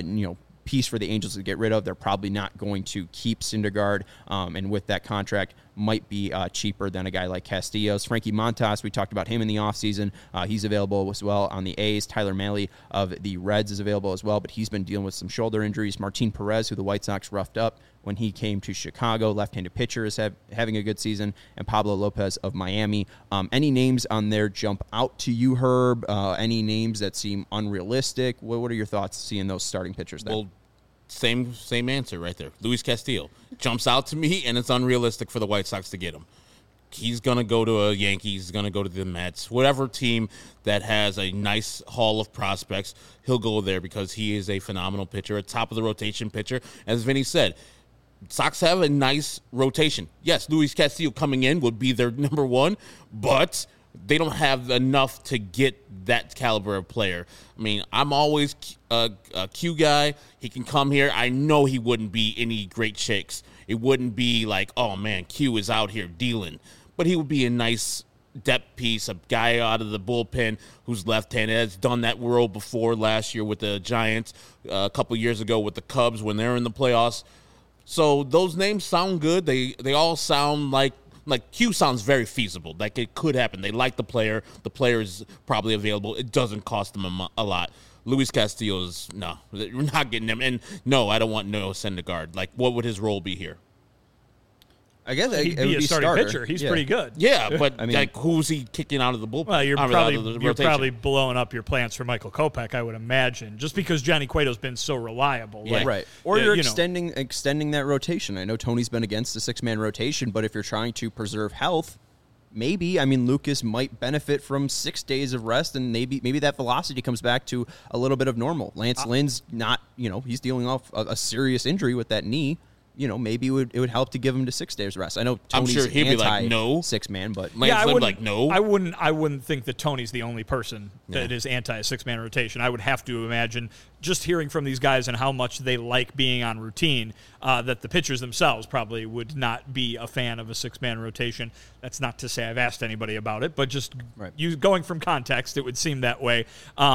piece for the Angels to get rid of. They're probably not going to keep Syndergaard, and with that contract, might be cheaper than a guy like Castillo's. Frankie Montas, we talked about him in the offseason. He's available as well on the A's. Tyler Mahle of the Reds is available as well, but he's been dealing with some shoulder injuries. Martin Perez, who the White Sox roughed up when he came to Chicago, left-handed pitcher, is having a good season, and Pablo Lopez of Miami. Any names on there jump out to you, Herb? Any names that seem unrealistic? What are your thoughts seeing those starting pitchers there? Well, same answer right there. Luis Castillo jumps out to me, and it's unrealistic for the White Sox to get him. He's going to go to a Yankees, he's going to go to the Mets, whatever team that has a nice haul of prospects, he'll go there because he is a phenomenal pitcher, a top-of-the-rotation pitcher. As Vinny said, Sox have a nice rotation. Yes, Luis Castillo coming in would be their number one, but they don't have enough to get that caliber of player. I mean, I'm always a Q guy. He can come here. I know he wouldn't be any great shakes. It wouldn't be like, oh, man, Q is out here dealing. But he would be a nice depth piece, a guy out of the bullpen who's left-handed, has done that role before last year with the Giants, a couple years ago with the Cubs when they're in the playoffs. So those names sound good. They all sound like Q sounds very feasible. Like it could happen. They like the player. The player is probably available. It doesn't cost them a lot. Luis Castillo's, no, we're not getting him. And no, I don't want Noah Syndergaard. Like, what would his role be here? I guess He'd be a starting pitcher. He's pretty good. Yeah, but I mean, like, who's he kicking out of the bullpen? Well, you're probably blowing up your plans for Michael Kopech, I would imagine, just because Johnny Cueto's been so reliable. Yeah. Like, right. Or you're extending that rotation. I know Tony's been against the 6-man rotation, but if you're trying to preserve health, maybe, I mean, Lucas might benefit from 6 days of rest, and maybe that velocity comes back to a little bit of normal. Lance Lynn's not, he's dealing off a serious injury with that knee. Maybe it would help to give him to 6 days rest. I know Tony's I'm sure he'd be like, no. 6-man, but Lance Lynn like, no. I wouldn't think that Tony's the only person that is anti a 6-man rotation. I would have to imagine, just hearing from these guys and how much they like being on routine, that the pitchers themselves probably would not be a fan of a 6-man rotation. That's not to say I've asked anybody about it, but just going from context, it would seem that way.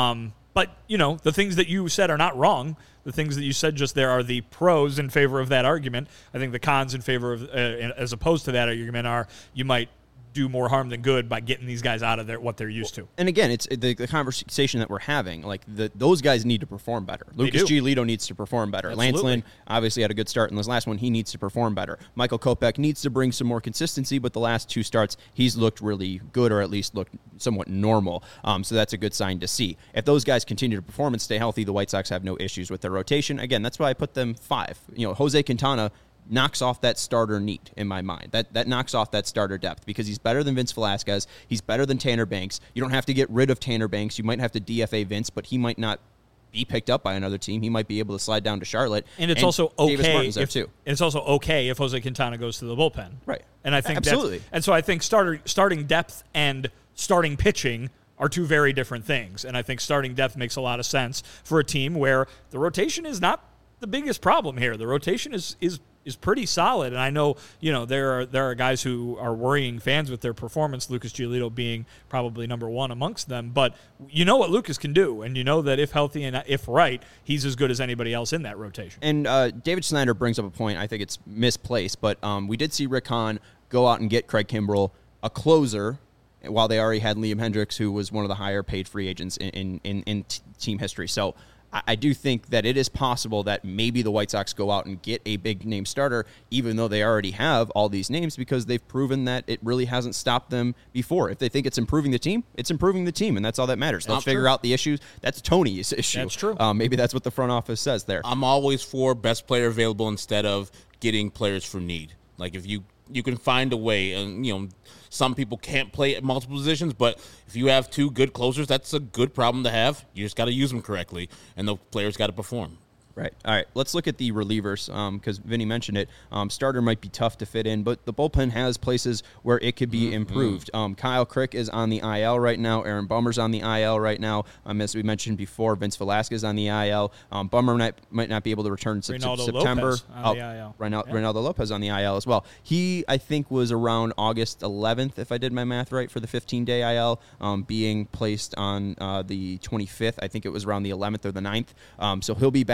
But, the things that you said are not wrong. The things that you said just there are the pros in favor of that argument. I think the cons in favor of, as opposed to that argument, are you might do more harm than good by getting these guys out of what they're used to. And again, it's the conversation that we're having. Like those guys need to perform better. Lucas Giolito needs to perform better. Absolutely. Lance Lynn obviously had a good start in this last one. He needs to perform better. Michael Kopech needs to bring some more consistency, but the last 2 starts, he's looked really good, or at least looked somewhat normal. So that's a good sign to see. If those guys continue to perform and stay healthy, the White Sox have no issues with their rotation. Again, that's why I put them 5. Jose Quintana knocks off that starter need in my mind. That knocks off that starter depth because he's better than Vince Velasquez. He's better than Tanner Banks. You don't have to get rid of Tanner Banks. You might have to DFA Vince, but he might not be picked up by another team. He might be able to slide down to Charlotte. And it's also okay if Jose Quintana goes to the bullpen. Right. And I think absolutely. And so I think starting depth and starting pitching are 2 very different things. And I think starting depth makes a lot of sense for a team where the rotation is not the biggest problem here. The rotation is pretty solid, and I know there are guys who are worrying fans with their performance. Lucas Giolito being probably number 1 amongst them, but you know what Lucas can do, and you know that if healthy and if right, he's as good as anybody else in that rotation. And David Snyder brings up a point. I think it's misplaced, but we did see Rick Hahn go out and get Craig Kimbrell, a closer, while they already had Liam Hendriks, who was one of the higher paid free agents in team history. So I do think that it is possible that maybe the White Sox go out and get a big-name starter, even though they already have all these names, because they've proven that it really hasn't stopped them before. If they think it's improving the team, it's improving the team, and that's all that matters. Let's figure out the issues. That's Tony's issue. That's true. Maybe that's what the front office says there. I'm always for best player available instead of getting players for need. Like, if you can find a way, and some people can't play at multiple positions, but if you have 2 good closers, that's a good problem to have. You just got to use them correctly, and the players got to perform. Right. All right. Let's look at the relievers because Vinny mentioned it. Starter might be tough to fit in, but the bullpen has places where it could be improved. Kyle Crick is on the IL right now. Aaron Bummer's on the IL right now. As we mentioned before, Vince Velasquez on the IL. Bummer might not be able to return in September. Lopez on the IL. Reynaldo Lopez on the IL as well. He, I think, was around August 11th, if I did my math right, for the 15-day IL, being placed on the 25th. I think it was around the 11th or the 9th. So he'll be back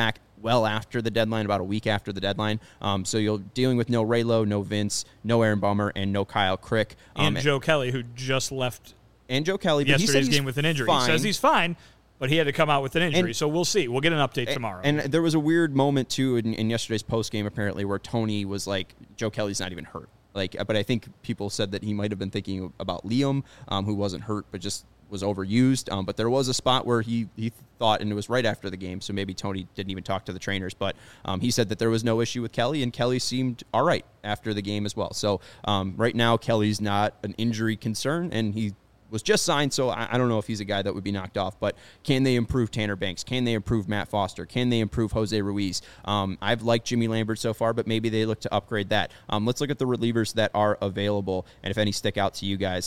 well after the deadline, about a week after the deadline. So you're dealing with no Raylo, no Vince, no Aaron Bummer, and no Kyle Crick. And Joe Kelly, who just left and Joe Kelly, but yesterday's game with an injury. Fine. He says he's fine, but he had to come out with an injury. So we'll see. We'll get an update tomorrow. And there was a weird moment, too, in yesterday's postgame, apparently, where Tony was like, Joe Kelly's not even hurt. But I think people said that he might have been thinking about Liam, who wasn't hurt, but just was overused. But there was a spot where he thought, and it was right after the game, so maybe Tony didn't even talk to the trainers, but he said that there was no issue with Kelly, and Kelly seemed all right after the game as well. So right now, Kelly's not an injury concern, and he was just signed, so I don't know if he's a guy that would be knocked off, but can they improve Tanner Banks? Can they improve Matt Foster? Can they improve Jose Ruiz? I've liked Jimmy Lambert so far, but maybe they look to upgrade that. Let's look at the relievers that are available, and if any stick out to you guys.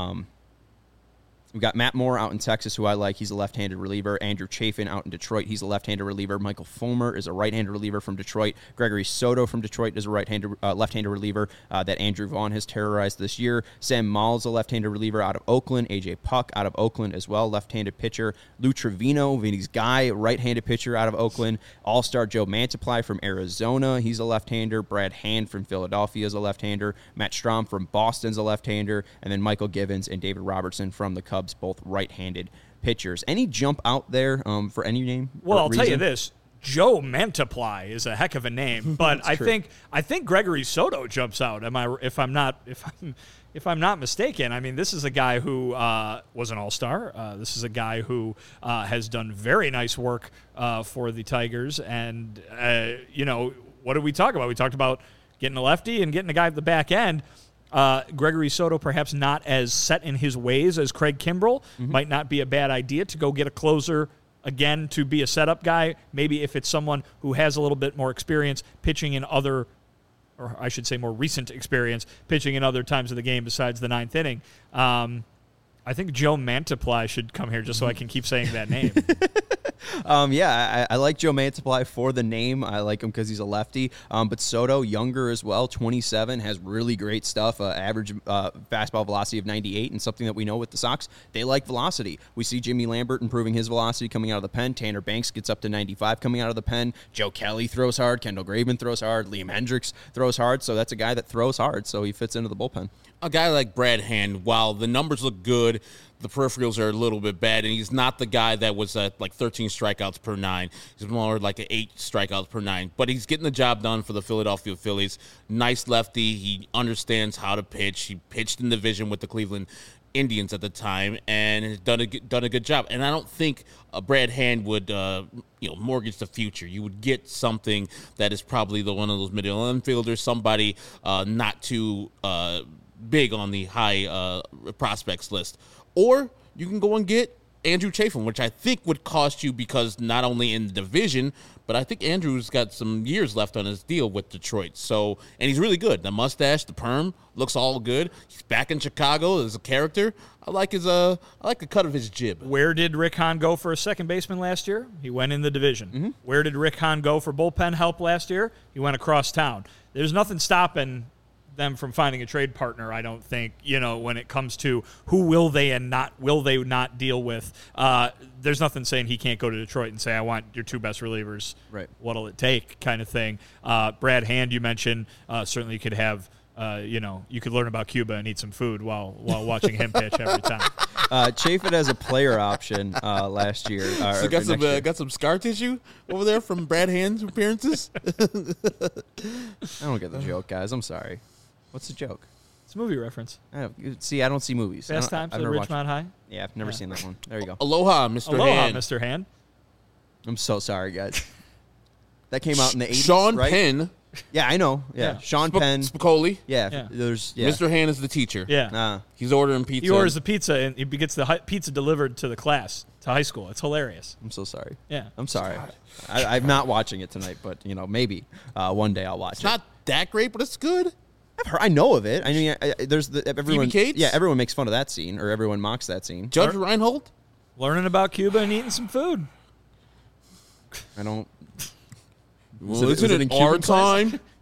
We've got Matt Moore out in Texas, who I like. He's a left-handed reliever. Andrew Chafin out in Detroit. He's a left-handed reliever. Michael Fulmer is a right-handed reliever from Detroit. Gregory Soto from Detroit is a left-handed reliever that Andrew Vaughn has terrorized this year. Sam Maul's a left-handed reliever out of Oakland. A.J. Puck out of Oakland as well, left-handed pitcher. Lou Trevino, Vinny's guy, right-handed pitcher out of Oakland. All-star Joe Mantiply from Arizona. He's a left-hander. Brad Hand from Philadelphia is a left-hander. Matt Strahm from Boston's a left-hander. And then Michael Givens and David Robertson from the Cubs, both right-handed pitchers. Any jump out there for any name? Well, I'll tell you this: Joe Mantiply is a heck of a name, but I think Gregory Soto jumps out. If I'm not mistaken? I mean, this is a guy who was an all-star. This is a guy who has done very nice work for the Tigers, and what did we talk about? We talked about getting a lefty and getting a guy at the back end. Gregory Soto, perhaps not as set in his ways as Craig Kimbrell, might not be a bad idea to go get a closer again, to be a setup guy. Maybe if it's someone who has a little bit more experience pitching in other, or I should say more recent experience, pitching in other times of the game besides the ninth inning. I think Joe Mantiply should come here just so I can keep saying that name. I like Joe Mantiply for the name. I like him because he's a lefty. But Soto, younger as well, 27, has really great stuff. Average fastball velocity of 98, and something that we know with the Sox, they like velocity. We see Jimmy Lambert improving his velocity coming out of the pen. Tanner Banks gets up to 95 coming out of the pen. Joe Kelly throws hard. Kendall Graveman throws hard. Liam Hendricks throws hard. So that's a guy that throws hard, so he fits into the bullpen. A guy like Brad Hand, while the numbers look good, the peripherals are a little bit bad, and he's not the guy that was at like 13 strikeouts per 9. He's more like an 8 strikeouts per 9. But he's getting the job done for the Philadelphia Phillies. Nice lefty. He understands how to pitch. He pitched in the division with the Cleveland Indians at the time and has done a good job. And I don't think Brad Hand would mortgage the future. You would get something that is probably one of those middle infielders, somebody not too big on the high prospects list. Or you can go and get Andrew Chafin, which I think would cost you because not only in the division, but I think Andrew's got some years left on his deal with Detroit. So, and he's really good. The mustache, the perm, looks all good. He's back in Chicago as a character. I like the cut of his jib. Where did Rick Hahn go for a second baseman last year? He went in the division. Mm-hmm. Where did Rick Hahn go for bullpen help last year? He went across town. There's nothing stopping them from finding a trade partner, I don't think, when it comes to who will they not deal with. There's nothing saying he can't go to Detroit and say, I want your 2 best relievers. Right. What'll it take kind of thing. Brad Hand, you mentioned, certainly you could have, you could learn about Cuba and eat some food while watching him pitch every time. Chafin as a player option last year. So got some scar tissue over there from Brad Hand's appearances? I don't get the joke, guys. I'm sorry. What's the joke? It's a movie reference. I don't see movies. Fast Times at Ridgemont High? Yeah, I've never seen that one. There you go. Aloha, Mr. Hand. Aloha, Mr. Hand. I'm so sorry, guys. That came out in the 80s, Sean right? Penn. Yeah, I know. Yeah. Sean Penn. Spicoli. Yeah. Mr. Hand is the teacher. Yeah. He's ordering pizza. He orders the pizza, and he gets the pizza delivered to the class, to high school. It's hilarious. I'm so sorry. Yeah. I'm sorry. I'm not watching it tonight, but, maybe one day I'll watch it. It's not that great, but it's good. I know of it. I mean, there's everyone. Phoebe Cates? Yeah, everyone makes fun of that scene, or everyone mocks that scene. Judge Reinhold? Learning about Cuba and eating some food. I don't. Well, isn't it our time?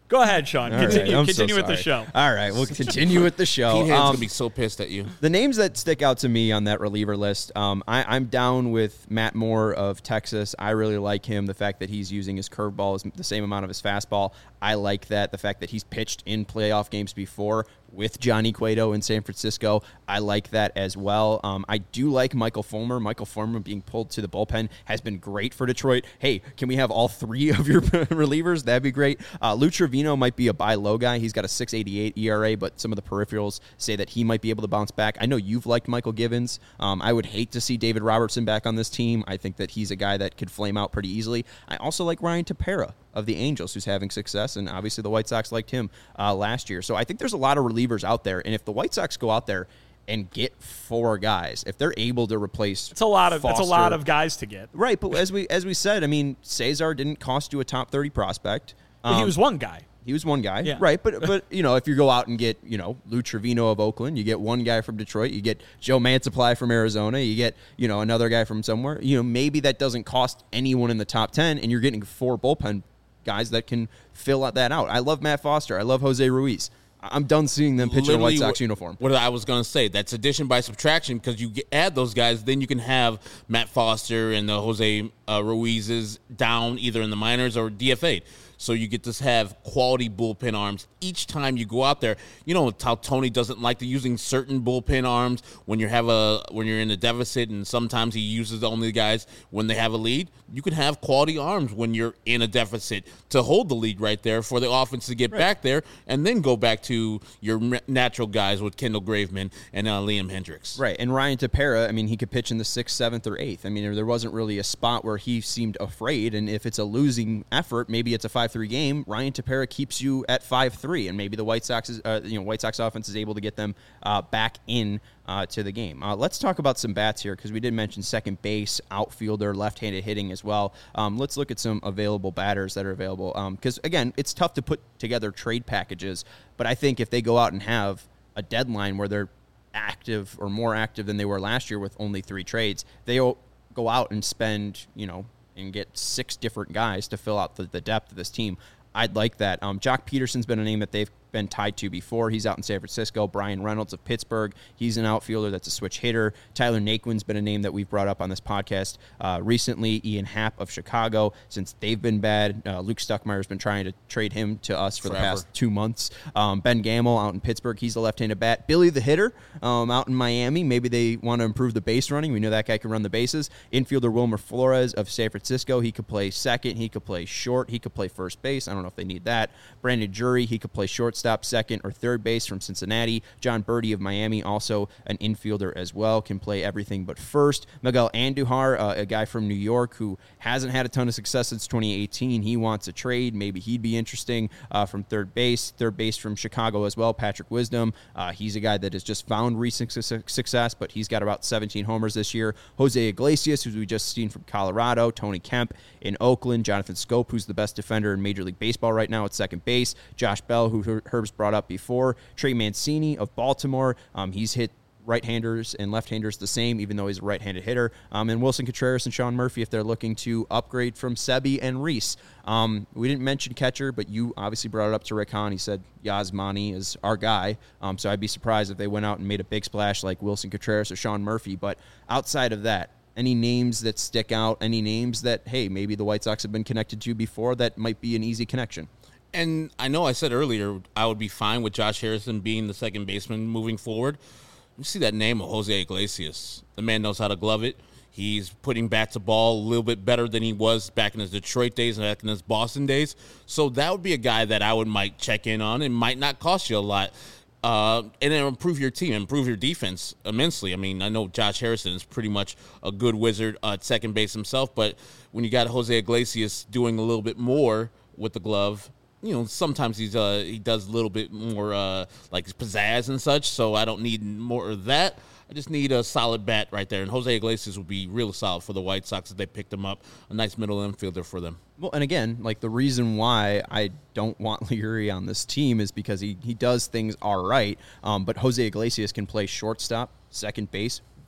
Go ahead, Sean. All right, Continue, I'm so continue with the sorry. show. All right, we'll continue with the show. Pete Hand's going to be so pissed at you. The names that stick out to me on that reliever list, I'm down with Matt Moore of Texas. I really like him. The fact that he's using his curveball is the same amount of his fastball. I like that. The fact that he's pitched in playoff games before with Johnny Cueto in San Francisco, I like that as well. I do like Michael Fulmer. Michael Fulmer being pulled to the bullpen has been great for Detroit. Hey, can we have all three of your relievers? That'd be great. Lou Trevino might be a buy low guy. He's got a 6.88 ERA, but some of the peripherals say that he might be able to bounce back. I know you've liked Michael Givens. I would hate to see David Robertson back on this team. I think that he's a guy that could flame out pretty easily. I also like Ryan Tepera of the Angels, who's having success, and obviously the White Sox liked him last year. So I think there's a lot of relievers out there, and if the White Sox go out there and get four guys, if they're able to replace It's a lot of Foster, guys to get. right? But as we said, I mean, Cesar didn't cost you a top 30 prospect. But he was one guy. He was one guy, Yeah. right? But you know, if you go out and get, you know, Lou Trevino of Oakland, you get one guy from Detroit, you get Joe Mantiply from Arizona, you get, you know, another guy from somewhere. You know, maybe that doesn't cost anyone in the top 10, and you're getting four bullpen guys that can fill that out. I love Matt Foster. I love Jose Ruiz. I'm done seeing them pitch in a White Sox uniform. What I was going to say, that's addition by subtraction, because you add those guys, then you can have Matt Foster and the Jose Ruizes down either in the minors or DFA'd. So you get to have quality bullpen arms each time you go out there. You know how Tony doesn't like to using certain bullpen arms when you're in a deficit, and sometimes he uses only the guys when they have a lead. You can have quality arms when you're in a deficit to hold the lead right there for the offense to get back there, and then go back to your natural guys with Kendall Graveman and Liam Hendricks. Right, and Ryan Tepera, I mean, he could pitch in the 6th, 7th, or 8th. I mean, there wasn't really a spot where he seemed afraid, and if it's a losing effort, maybe it's a 5-3 game, Ryan Tepera keeps you at 5-3, and maybe the White Sox offense is able to get them back in to the game. Let's talk about some bats here, because we did mention second base, outfielder, left-handed hitting as well. Let's look at some available batters that are available, because, again, it's tough to put together trade packages, but I think if they go out and have a deadline where they're active or more active than they were last year with only 3 trades, they'll go out and spend, you know, and get 6 different guys to fill out the depth of this team. I'd like that. Jock Peterson's been a name that they've been tied to before. He's out in San Francisco. Brian Reynolds of Pittsburgh, he's an outfielder that's a switch hitter. Tyler Naquin's been a name that we've brought up on this podcast recently. Ian Happ of Chicago, since they've been bad. Luke Stuckmeyer's been trying to trade him to us for the past 2 months. Ben Gamel out in Pittsburgh, he's a left-handed bat. Billy the hitter out in Miami, maybe they want to improve the base running. We know that guy can run the bases. Infielder Wilmer Flores of San Francisco, he could play second, he could play short, he could play first base. I don't know if they need that. Brandon Drury, he could play shortstop, second, or third base from Cincinnati. John Birdie of Miami, also an infielder as well, can play everything but first. Miguel Andujar, a guy from New York who hasn't had a ton of success since 2018. He wants a trade. Maybe he'd be interesting from third base. Third base from Chicago as well, Patrick Wisdom. He's a guy that has just found recent success, but he's got about 17 homers this year. Jose Iglesias, who we just seen from Colorado. Tony Kemp in Oakland. Jonathan Scope, who's the best defender in Major League Baseball right now at second base. Josh Bell, who Herb's brought up before. Trey Mancini of Baltimore. He's hit right-handers and left-handers the same, even though he's a right-handed hitter. And Wilson Contreras and Sean Murphy, if they're looking to upgrade from Sebi and Reese. We didn't mention catcher, but you obviously brought it up to Rick Hahn. He said Yasmani is our guy. So I'd be surprised if they went out and made a big splash like Wilson Contreras or Sean Murphy. But outside of that, any names that stick out, any names that, hey, maybe the White Sox have been connected to before that might be an easy connection? And I know I said earlier I would be fine with Josh Harrison being the second baseman moving forward. You see that name of Jose Iglesias. The man knows how to glove it. He's putting bat to ball a little bit better than he was back in his Detroit days and back in his Boston days. So that would be a guy that I might check in on. It might not cost you a lot. And it'll improve your team, improve your defense immensely. I mean, I know Josh Harrison is pretty much a good wizard at second base himself, but when you got Jose Iglesias doing a little bit more with the glove, you know, sometimes he does a little bit more like pizzazz and such, so I don't need more of that. I just need a solid bat right there, and Jose Iglesias would be real solid for the White Sox if they picked him up. A nice middle infielder for them. Well, and again, like the reason why I don't want Leury on this team is because he does things all right, but Jose Iglesias can play shortstop, second base,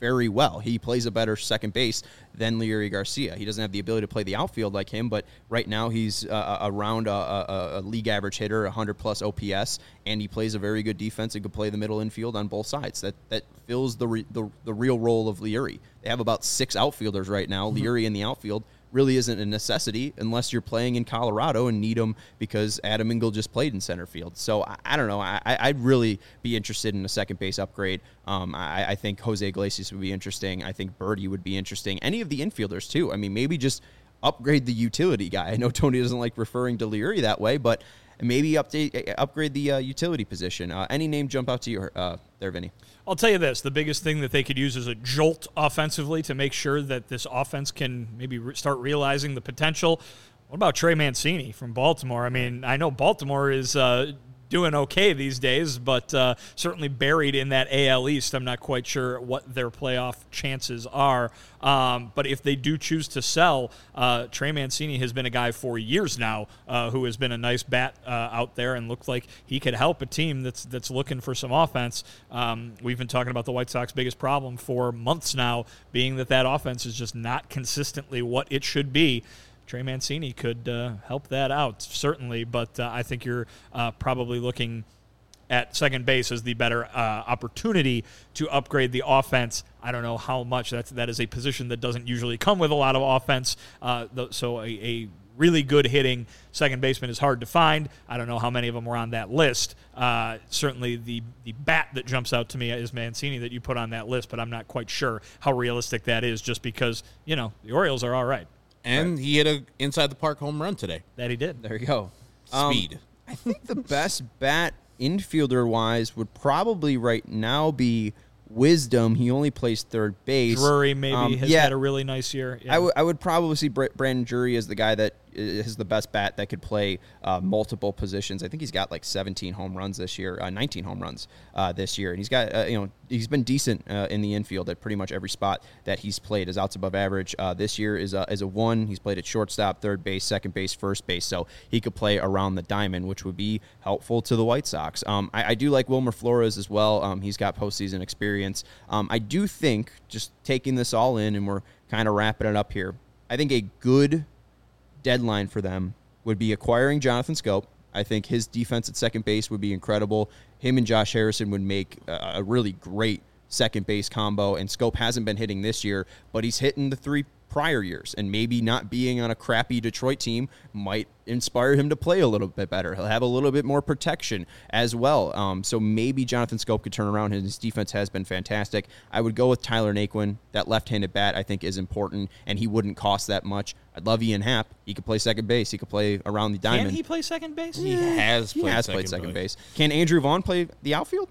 very well. He plays a better second base than Leury Garcia. He doesn't have the ability to play the outfield like him, but right now he's around a league average hitter, 100-plus OPS, and he plays a very good defense and can play the middle infield on both sides. That fills the real role of Leury. They have about 6 outfielders right now. Leury in the outfield really isn't a necessity unless you're playing in Colorado and need him because Adam Engel just played in center field. So I don't know. I'd really be interested in a second base upgrade. I think Jose Iglesias would be interesting. I think Birdie would be interesting. Any of the infielders too. I mean, maybe just upgrade the utility guy. I know Tony doesn't like referring to Leury that way, but maybe upgrade the utility position. Any name jump out to you there, Vinny? I'll tell you this. The biggest thing that they could use is a jolt offensively to make sure that this offense can maybe start realizing the potential. What about Trey Mancini from Baltimore? I mean, I know Baltimore is doing okay these days, but certainly buried in that AL East. I'm not quite sure what their playoff chances are. But if they do choose to sell, Trey Mancini has been a guy for years now who has been a nice bat out there and looked like he could help a team that's looking for some offense. We've been talking about the White Sox biggest problem for months now, being that offense is just not consistently what it should be. Trey Mancini could help that out, certainly, but I think you're probably looking at second base as the better opportunity to upgrade the offense. I don't know how much. That is a position that doesn't usually come with a lot of offense, so a really good hitting second baseman is hard to find. I don't know how many of them were on that list. Certainly the bat that jumps out to me is Mancini that you put on that list, but I'm not quite sure how realistic that is just because, the Orioles are all right. And he hit a inside the park home run today. That he did. There you go. Speed. I think the best bat infielder-wise would probably right now be Wisdom. He only plays third base. Drury maybe has had a really nice year. Yeah. I would probably see Brandon Drury as the guy that is the best bat that could play multiple positions. I think he's got like 17 home runs this year, 19 home runs this year, and he's got he's been decent in the infield at pretty much every spot that he's played. His outs above average this year is a 1. He's played at shortstop, third base, second base, first base, so he could play around the diamond, which would be helpful to the White Sox. I do like Wilmer Flores as well. He's got postseason experience. I do think, just taking this all in, and we're kind of wrapping it up here, I think a good deadline for them would be acquiring Jonathan Schoop. I think his defense at second base would be incredible. Him and Josh Harrison would make a really great second base combo, and Schoop hasn't been hitting this year, but he's hitting the 3 prior years, and maybe not being on a crappy Detroit team might inspire him to play a little bit better. He'll have a little bit more protection as well. So maybe Jonathan Schoop could turn around. His defense has been fantastic. I would go with Tyler Naquin. That left-handed bat I think is important, and he wouldn't cost that much. I'd love Ian Happ. He could play second base. He could play around the diamond. Can he play second base? He has played second base. Can Andrew Vaughn play the outfield?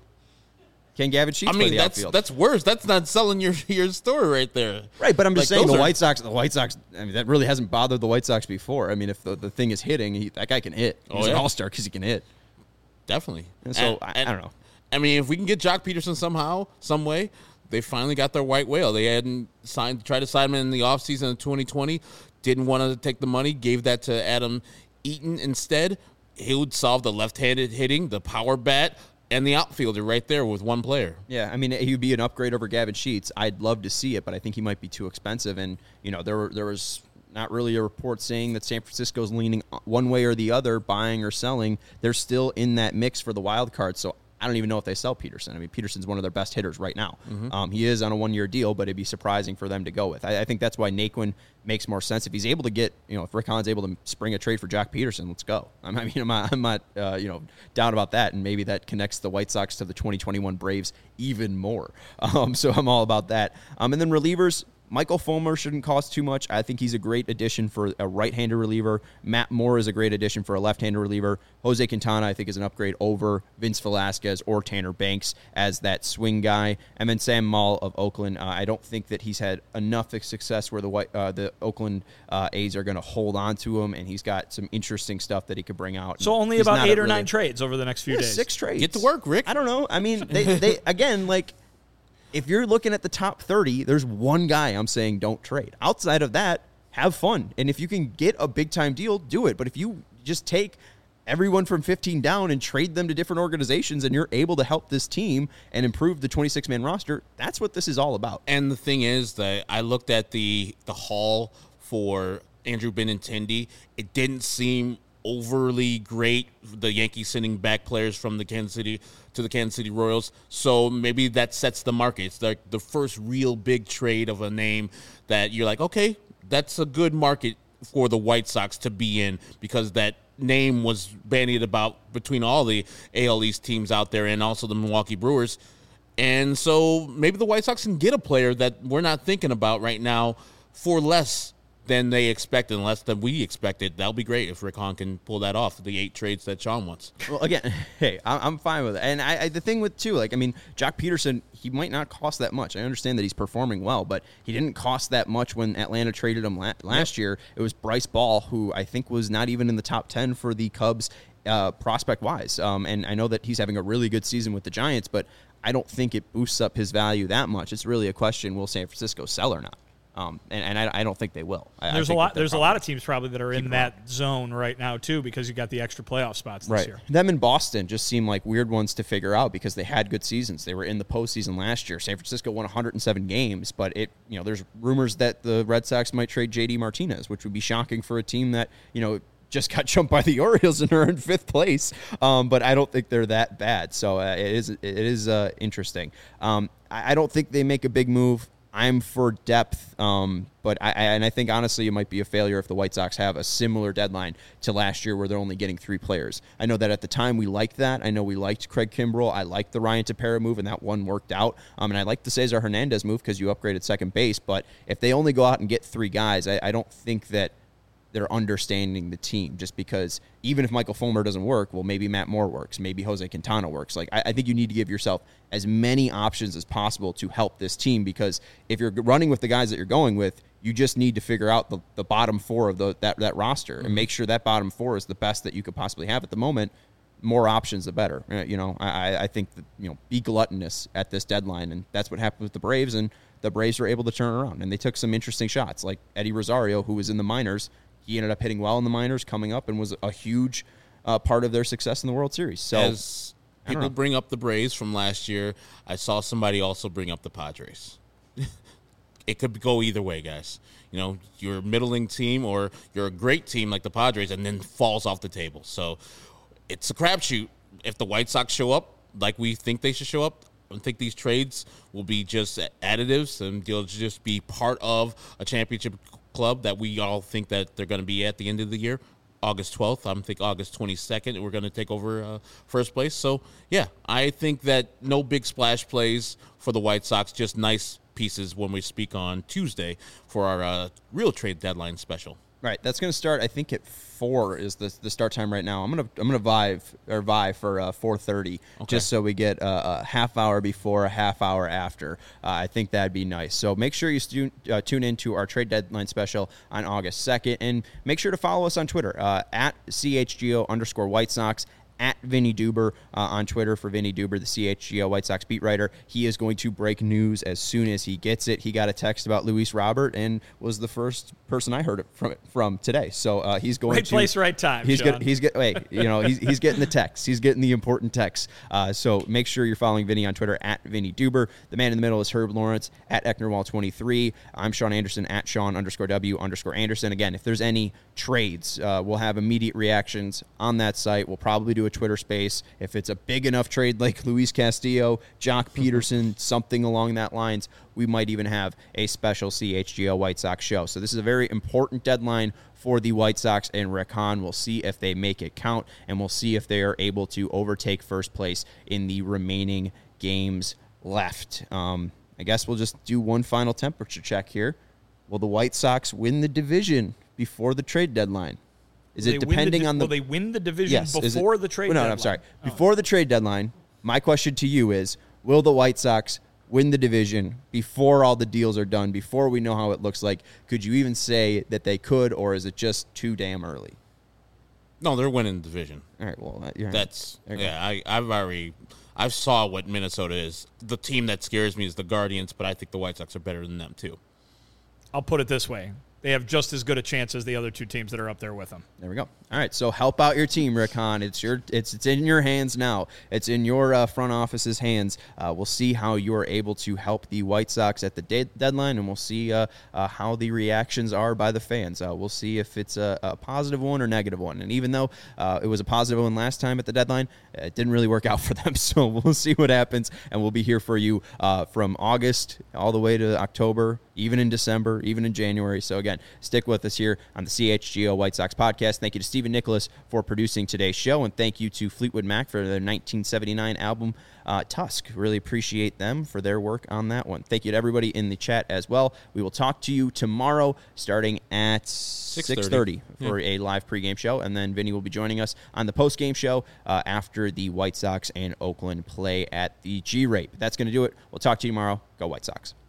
Can Gavin Sheets play the outfield? That's worse. That's not selling your story right there. Right, but I'm just saying the White Sox, I mean, that really hasn't bothered the White Sox before. I mean, if the thing is hitting, that guy can hit. He's an all-star because he can hit. Definitely. And so, I don't know. I mean, if we can get Jock Peterson somehow, some way, they finally got their white whale. They hadn't tried to sign him in the offseason of 2020, didn't want to take the money, gave that to Adam Eaton instead. He would solve the left-handed hitting, the power bat, and the outfielder right there with one player. Yeah, I mean, he would be an upgrade over Gavin Sheets. I'd love to see it, but I think he might be too expensive. And, there was not really a report saying that San Francisco's leaning one way or the other, buying or selling. They're still in that mix for the wild card, so I don't even know if they sell Peterson. I mean, Peterson's one of their best hitters right now. Mm-hmm. He is on a 1-year deal, but it'd be surprising for them to go with. I think that's why Naquin makes more sense. If he's able to get, if Rick Hahn's able to spring a trade for Jock Peterson, let's go. I'm not down about that, and maybe that connects the White Sox to the 2021 Braves even more. So I'm all about that. And then relievers, Michael Fulmer shouldn't cost too much. I think he's a great addition for a right-handed reliever. Matt Moore is a great addition for a left-handed reliever. Jose Quintana, I think, is an upgrade over Vince Velasquez or Tanner Banks as that swing guy. And then Sam Moll of Oakland. I don't think that he's had enough success where the Oakland A's are going to hold on to him, and he's got some interesting stuff that he could bring out. So only about 8 or 9 trades over the next few days. 6 trades. Get to work, Rick. I don't know. I mean, they again, like, if you're looking at the top 30, there's one guy I'm saying don't trade. Outside of that, have fun. And if you can get a big-time deal, do it. But if you just take everyone from 15 down and trade them to different organizations, and you're able to help this team and improve the 26-man roster. That's what this is all about. And the thing is that I looked at the haul for Andrew Benintendi. It didn't seem overly great, the Yankees sending back players from the Kansas City Royals. So maybe that sets the market. It's like the first real big trade of a name that you're like, okay, that's a good market for the White Sox to be in, because that name was bandied about between all the AL East teams out there and also the Milwaukee Brewers. And so maybe the White Sox can get a player that we're not thinking about right now for less than they expected, and less than we expected. That'll be great if Rick Hahn can pull that off, the 8 trades that Sean wants. Well, again, hey, I'm fine with it. And I the thing with, too, like, I mean, Jock Peterson, he might not cost that much. I understand that he's performing well, but he didn't cost that much when Atlanta traded him last year. It was Bryce Ball, who I think was not even in the top 10 for the Cubs prospect-wise. And I know that he's having a really good season with the Giants, but I don't think it boosts up his value that much. It's really a question, will San Francisco sell or not? And I don't think they will. There's a lot of teams probably that are in that zone right now too, because you got the extra playoff spots this year. Them in Boston just seem like weird ones to figure out because they had good seasons. They were in the postseason last year. San Francisco won 107 games, but there's rumors that the Red Sox might trade JD Martinez, which would be shocking for a team that just got jumped by the Orioles and are in 5th place. But I don't think they're that bad. So it is interesting. I don't think they make a big move. I'm for depth, but I think, honestly, it might be a failure if the White Sox have a similar deadline to last year where they're only getting 3 players. I know that at the time we liked that. I know we liked Craig Kimbrell. I liked the Ryan Tepera move, and that one worked out. And I liked the Cesar Hernandez move because you upgraded second base. But if they only go out and get 3 guys, I don't think that they're understanding the team, just because even if Michael Fulmer doesn't work, well, maybe Matt Moore works, maybe Jose Quintana works. Like, I think you need to give yourself as many options as possible to help this team, because if you're running with the guys that you're going with, you just need to figure out the bottom 4 of that roster and make sure that bottom 4 is the best that you could possibly have at the moment. More options, the better. I think that, be gluttonous at this deadline, and that's what happened with the Braves, and the Braves were able to turn around, and they took some interesting shots, like Eddie Rosario, who was in the minors. He ended up hitting well in the minors, coming up, and was a huge part of their success in the World Series. So, as people bring up the Braves from last year, I saw somebody also bring up the Padres. It could go either way, guys. You're a middling team, or you're a great team like the Padres, and then falls off the table. So it's a crapshoot. If the White Sox show up like we think they should show up, I think these trades will be just additives, and they'll just be part of a championship club that we all think that they're going to be at the end of the year. August 12th, I think August 22nd, we're going to take over first place. So, yeah, I think that no big splash plays for the White Sox, just nice pieces when we speak on Tuesday for our real trade deadline special. Right, that's going to start, I think, at 4 is the start time right now. I'm gonna vie for 4:30, just so we get a half hour before, a half hour after. I think that'd be nice. So make sure you tune into our trade deadline special on August 2nd, and make sure to follow us on Twitter at @CHGO_White Sox. At Vinny Duber on Twitter for Vinny Duber, the CHGO White Sox beat writer. He is going to break news as soon as he gets it. He got a text about Luis Robert and was the first person I heard it from today. So he's going right place, right time. He's getting the text. He's getting the important text. So make sure you're following Vinny on Twitter at Vinny Duber. The man in the middle is Herb Lawrence at Ecknerwall23. I'm Sean Anderson at Sean_W_Anderson. Again, if there's any trades, we'll have immediate reactions on that site. We'll probably do a Twitter space if it's a big enough trade like Luis Castillo, Jock Peterson, something along that lines. We might even have a special CHGO White Sox show. So this is a very important deadline for the White Sox and Rick Hahn. We'll see if they make it count, and we'll see if they are able to overtake first place in the remaining games left. I guess we'll just do one final temperature check here. Will the White Sox win the division before the trade deadline? Is it depending on the... Will they win the division before the trade deadline? No, I'm sorry. Before the trade deadline, my question to you is, will the White Sox win the division before all the deals are done, before we know how it looks like? Could you even say that they could, or is it just too damn early? No, they're winning the division. All right, well, I've saw what Minnesota is. The team that scares me is the Guardians, but I think the White Sox are better than them too. I'll put it this way. they have just as good a chance as the other two teams that are up there with them. There we go. All right, so help out your team, Rick Hahn. It's in your hands now. It's in your front office's hands. We'll see how you're able to help the White Sox at the deadline, and we'll see how the reactions are by the fans. We'll see if it's a positive one or negative one. And even though it was a positive one last time at the deadline, it didn't really work out for them. So we'll see what happens, and we'll be here for you from August all the way to October, even in December, even in January. So again, stick with us here on the CHGO White Sox podcast. Thank you to Stephen Nicholas for producing today's show, and thank you to Fleetwood Mac for their 1979 album, Tusk. Really appreciate them for their work on that one. Thank you to everybody in the chat as well. We will talk to you tomorrow starting at 6:30 for a live pregame show, and then Vinny will be joining us on the postgame show after the White Sox and Oakland play at the G-Rate. That's going to do it. We'll talk to you tomorrow. Go White Sox.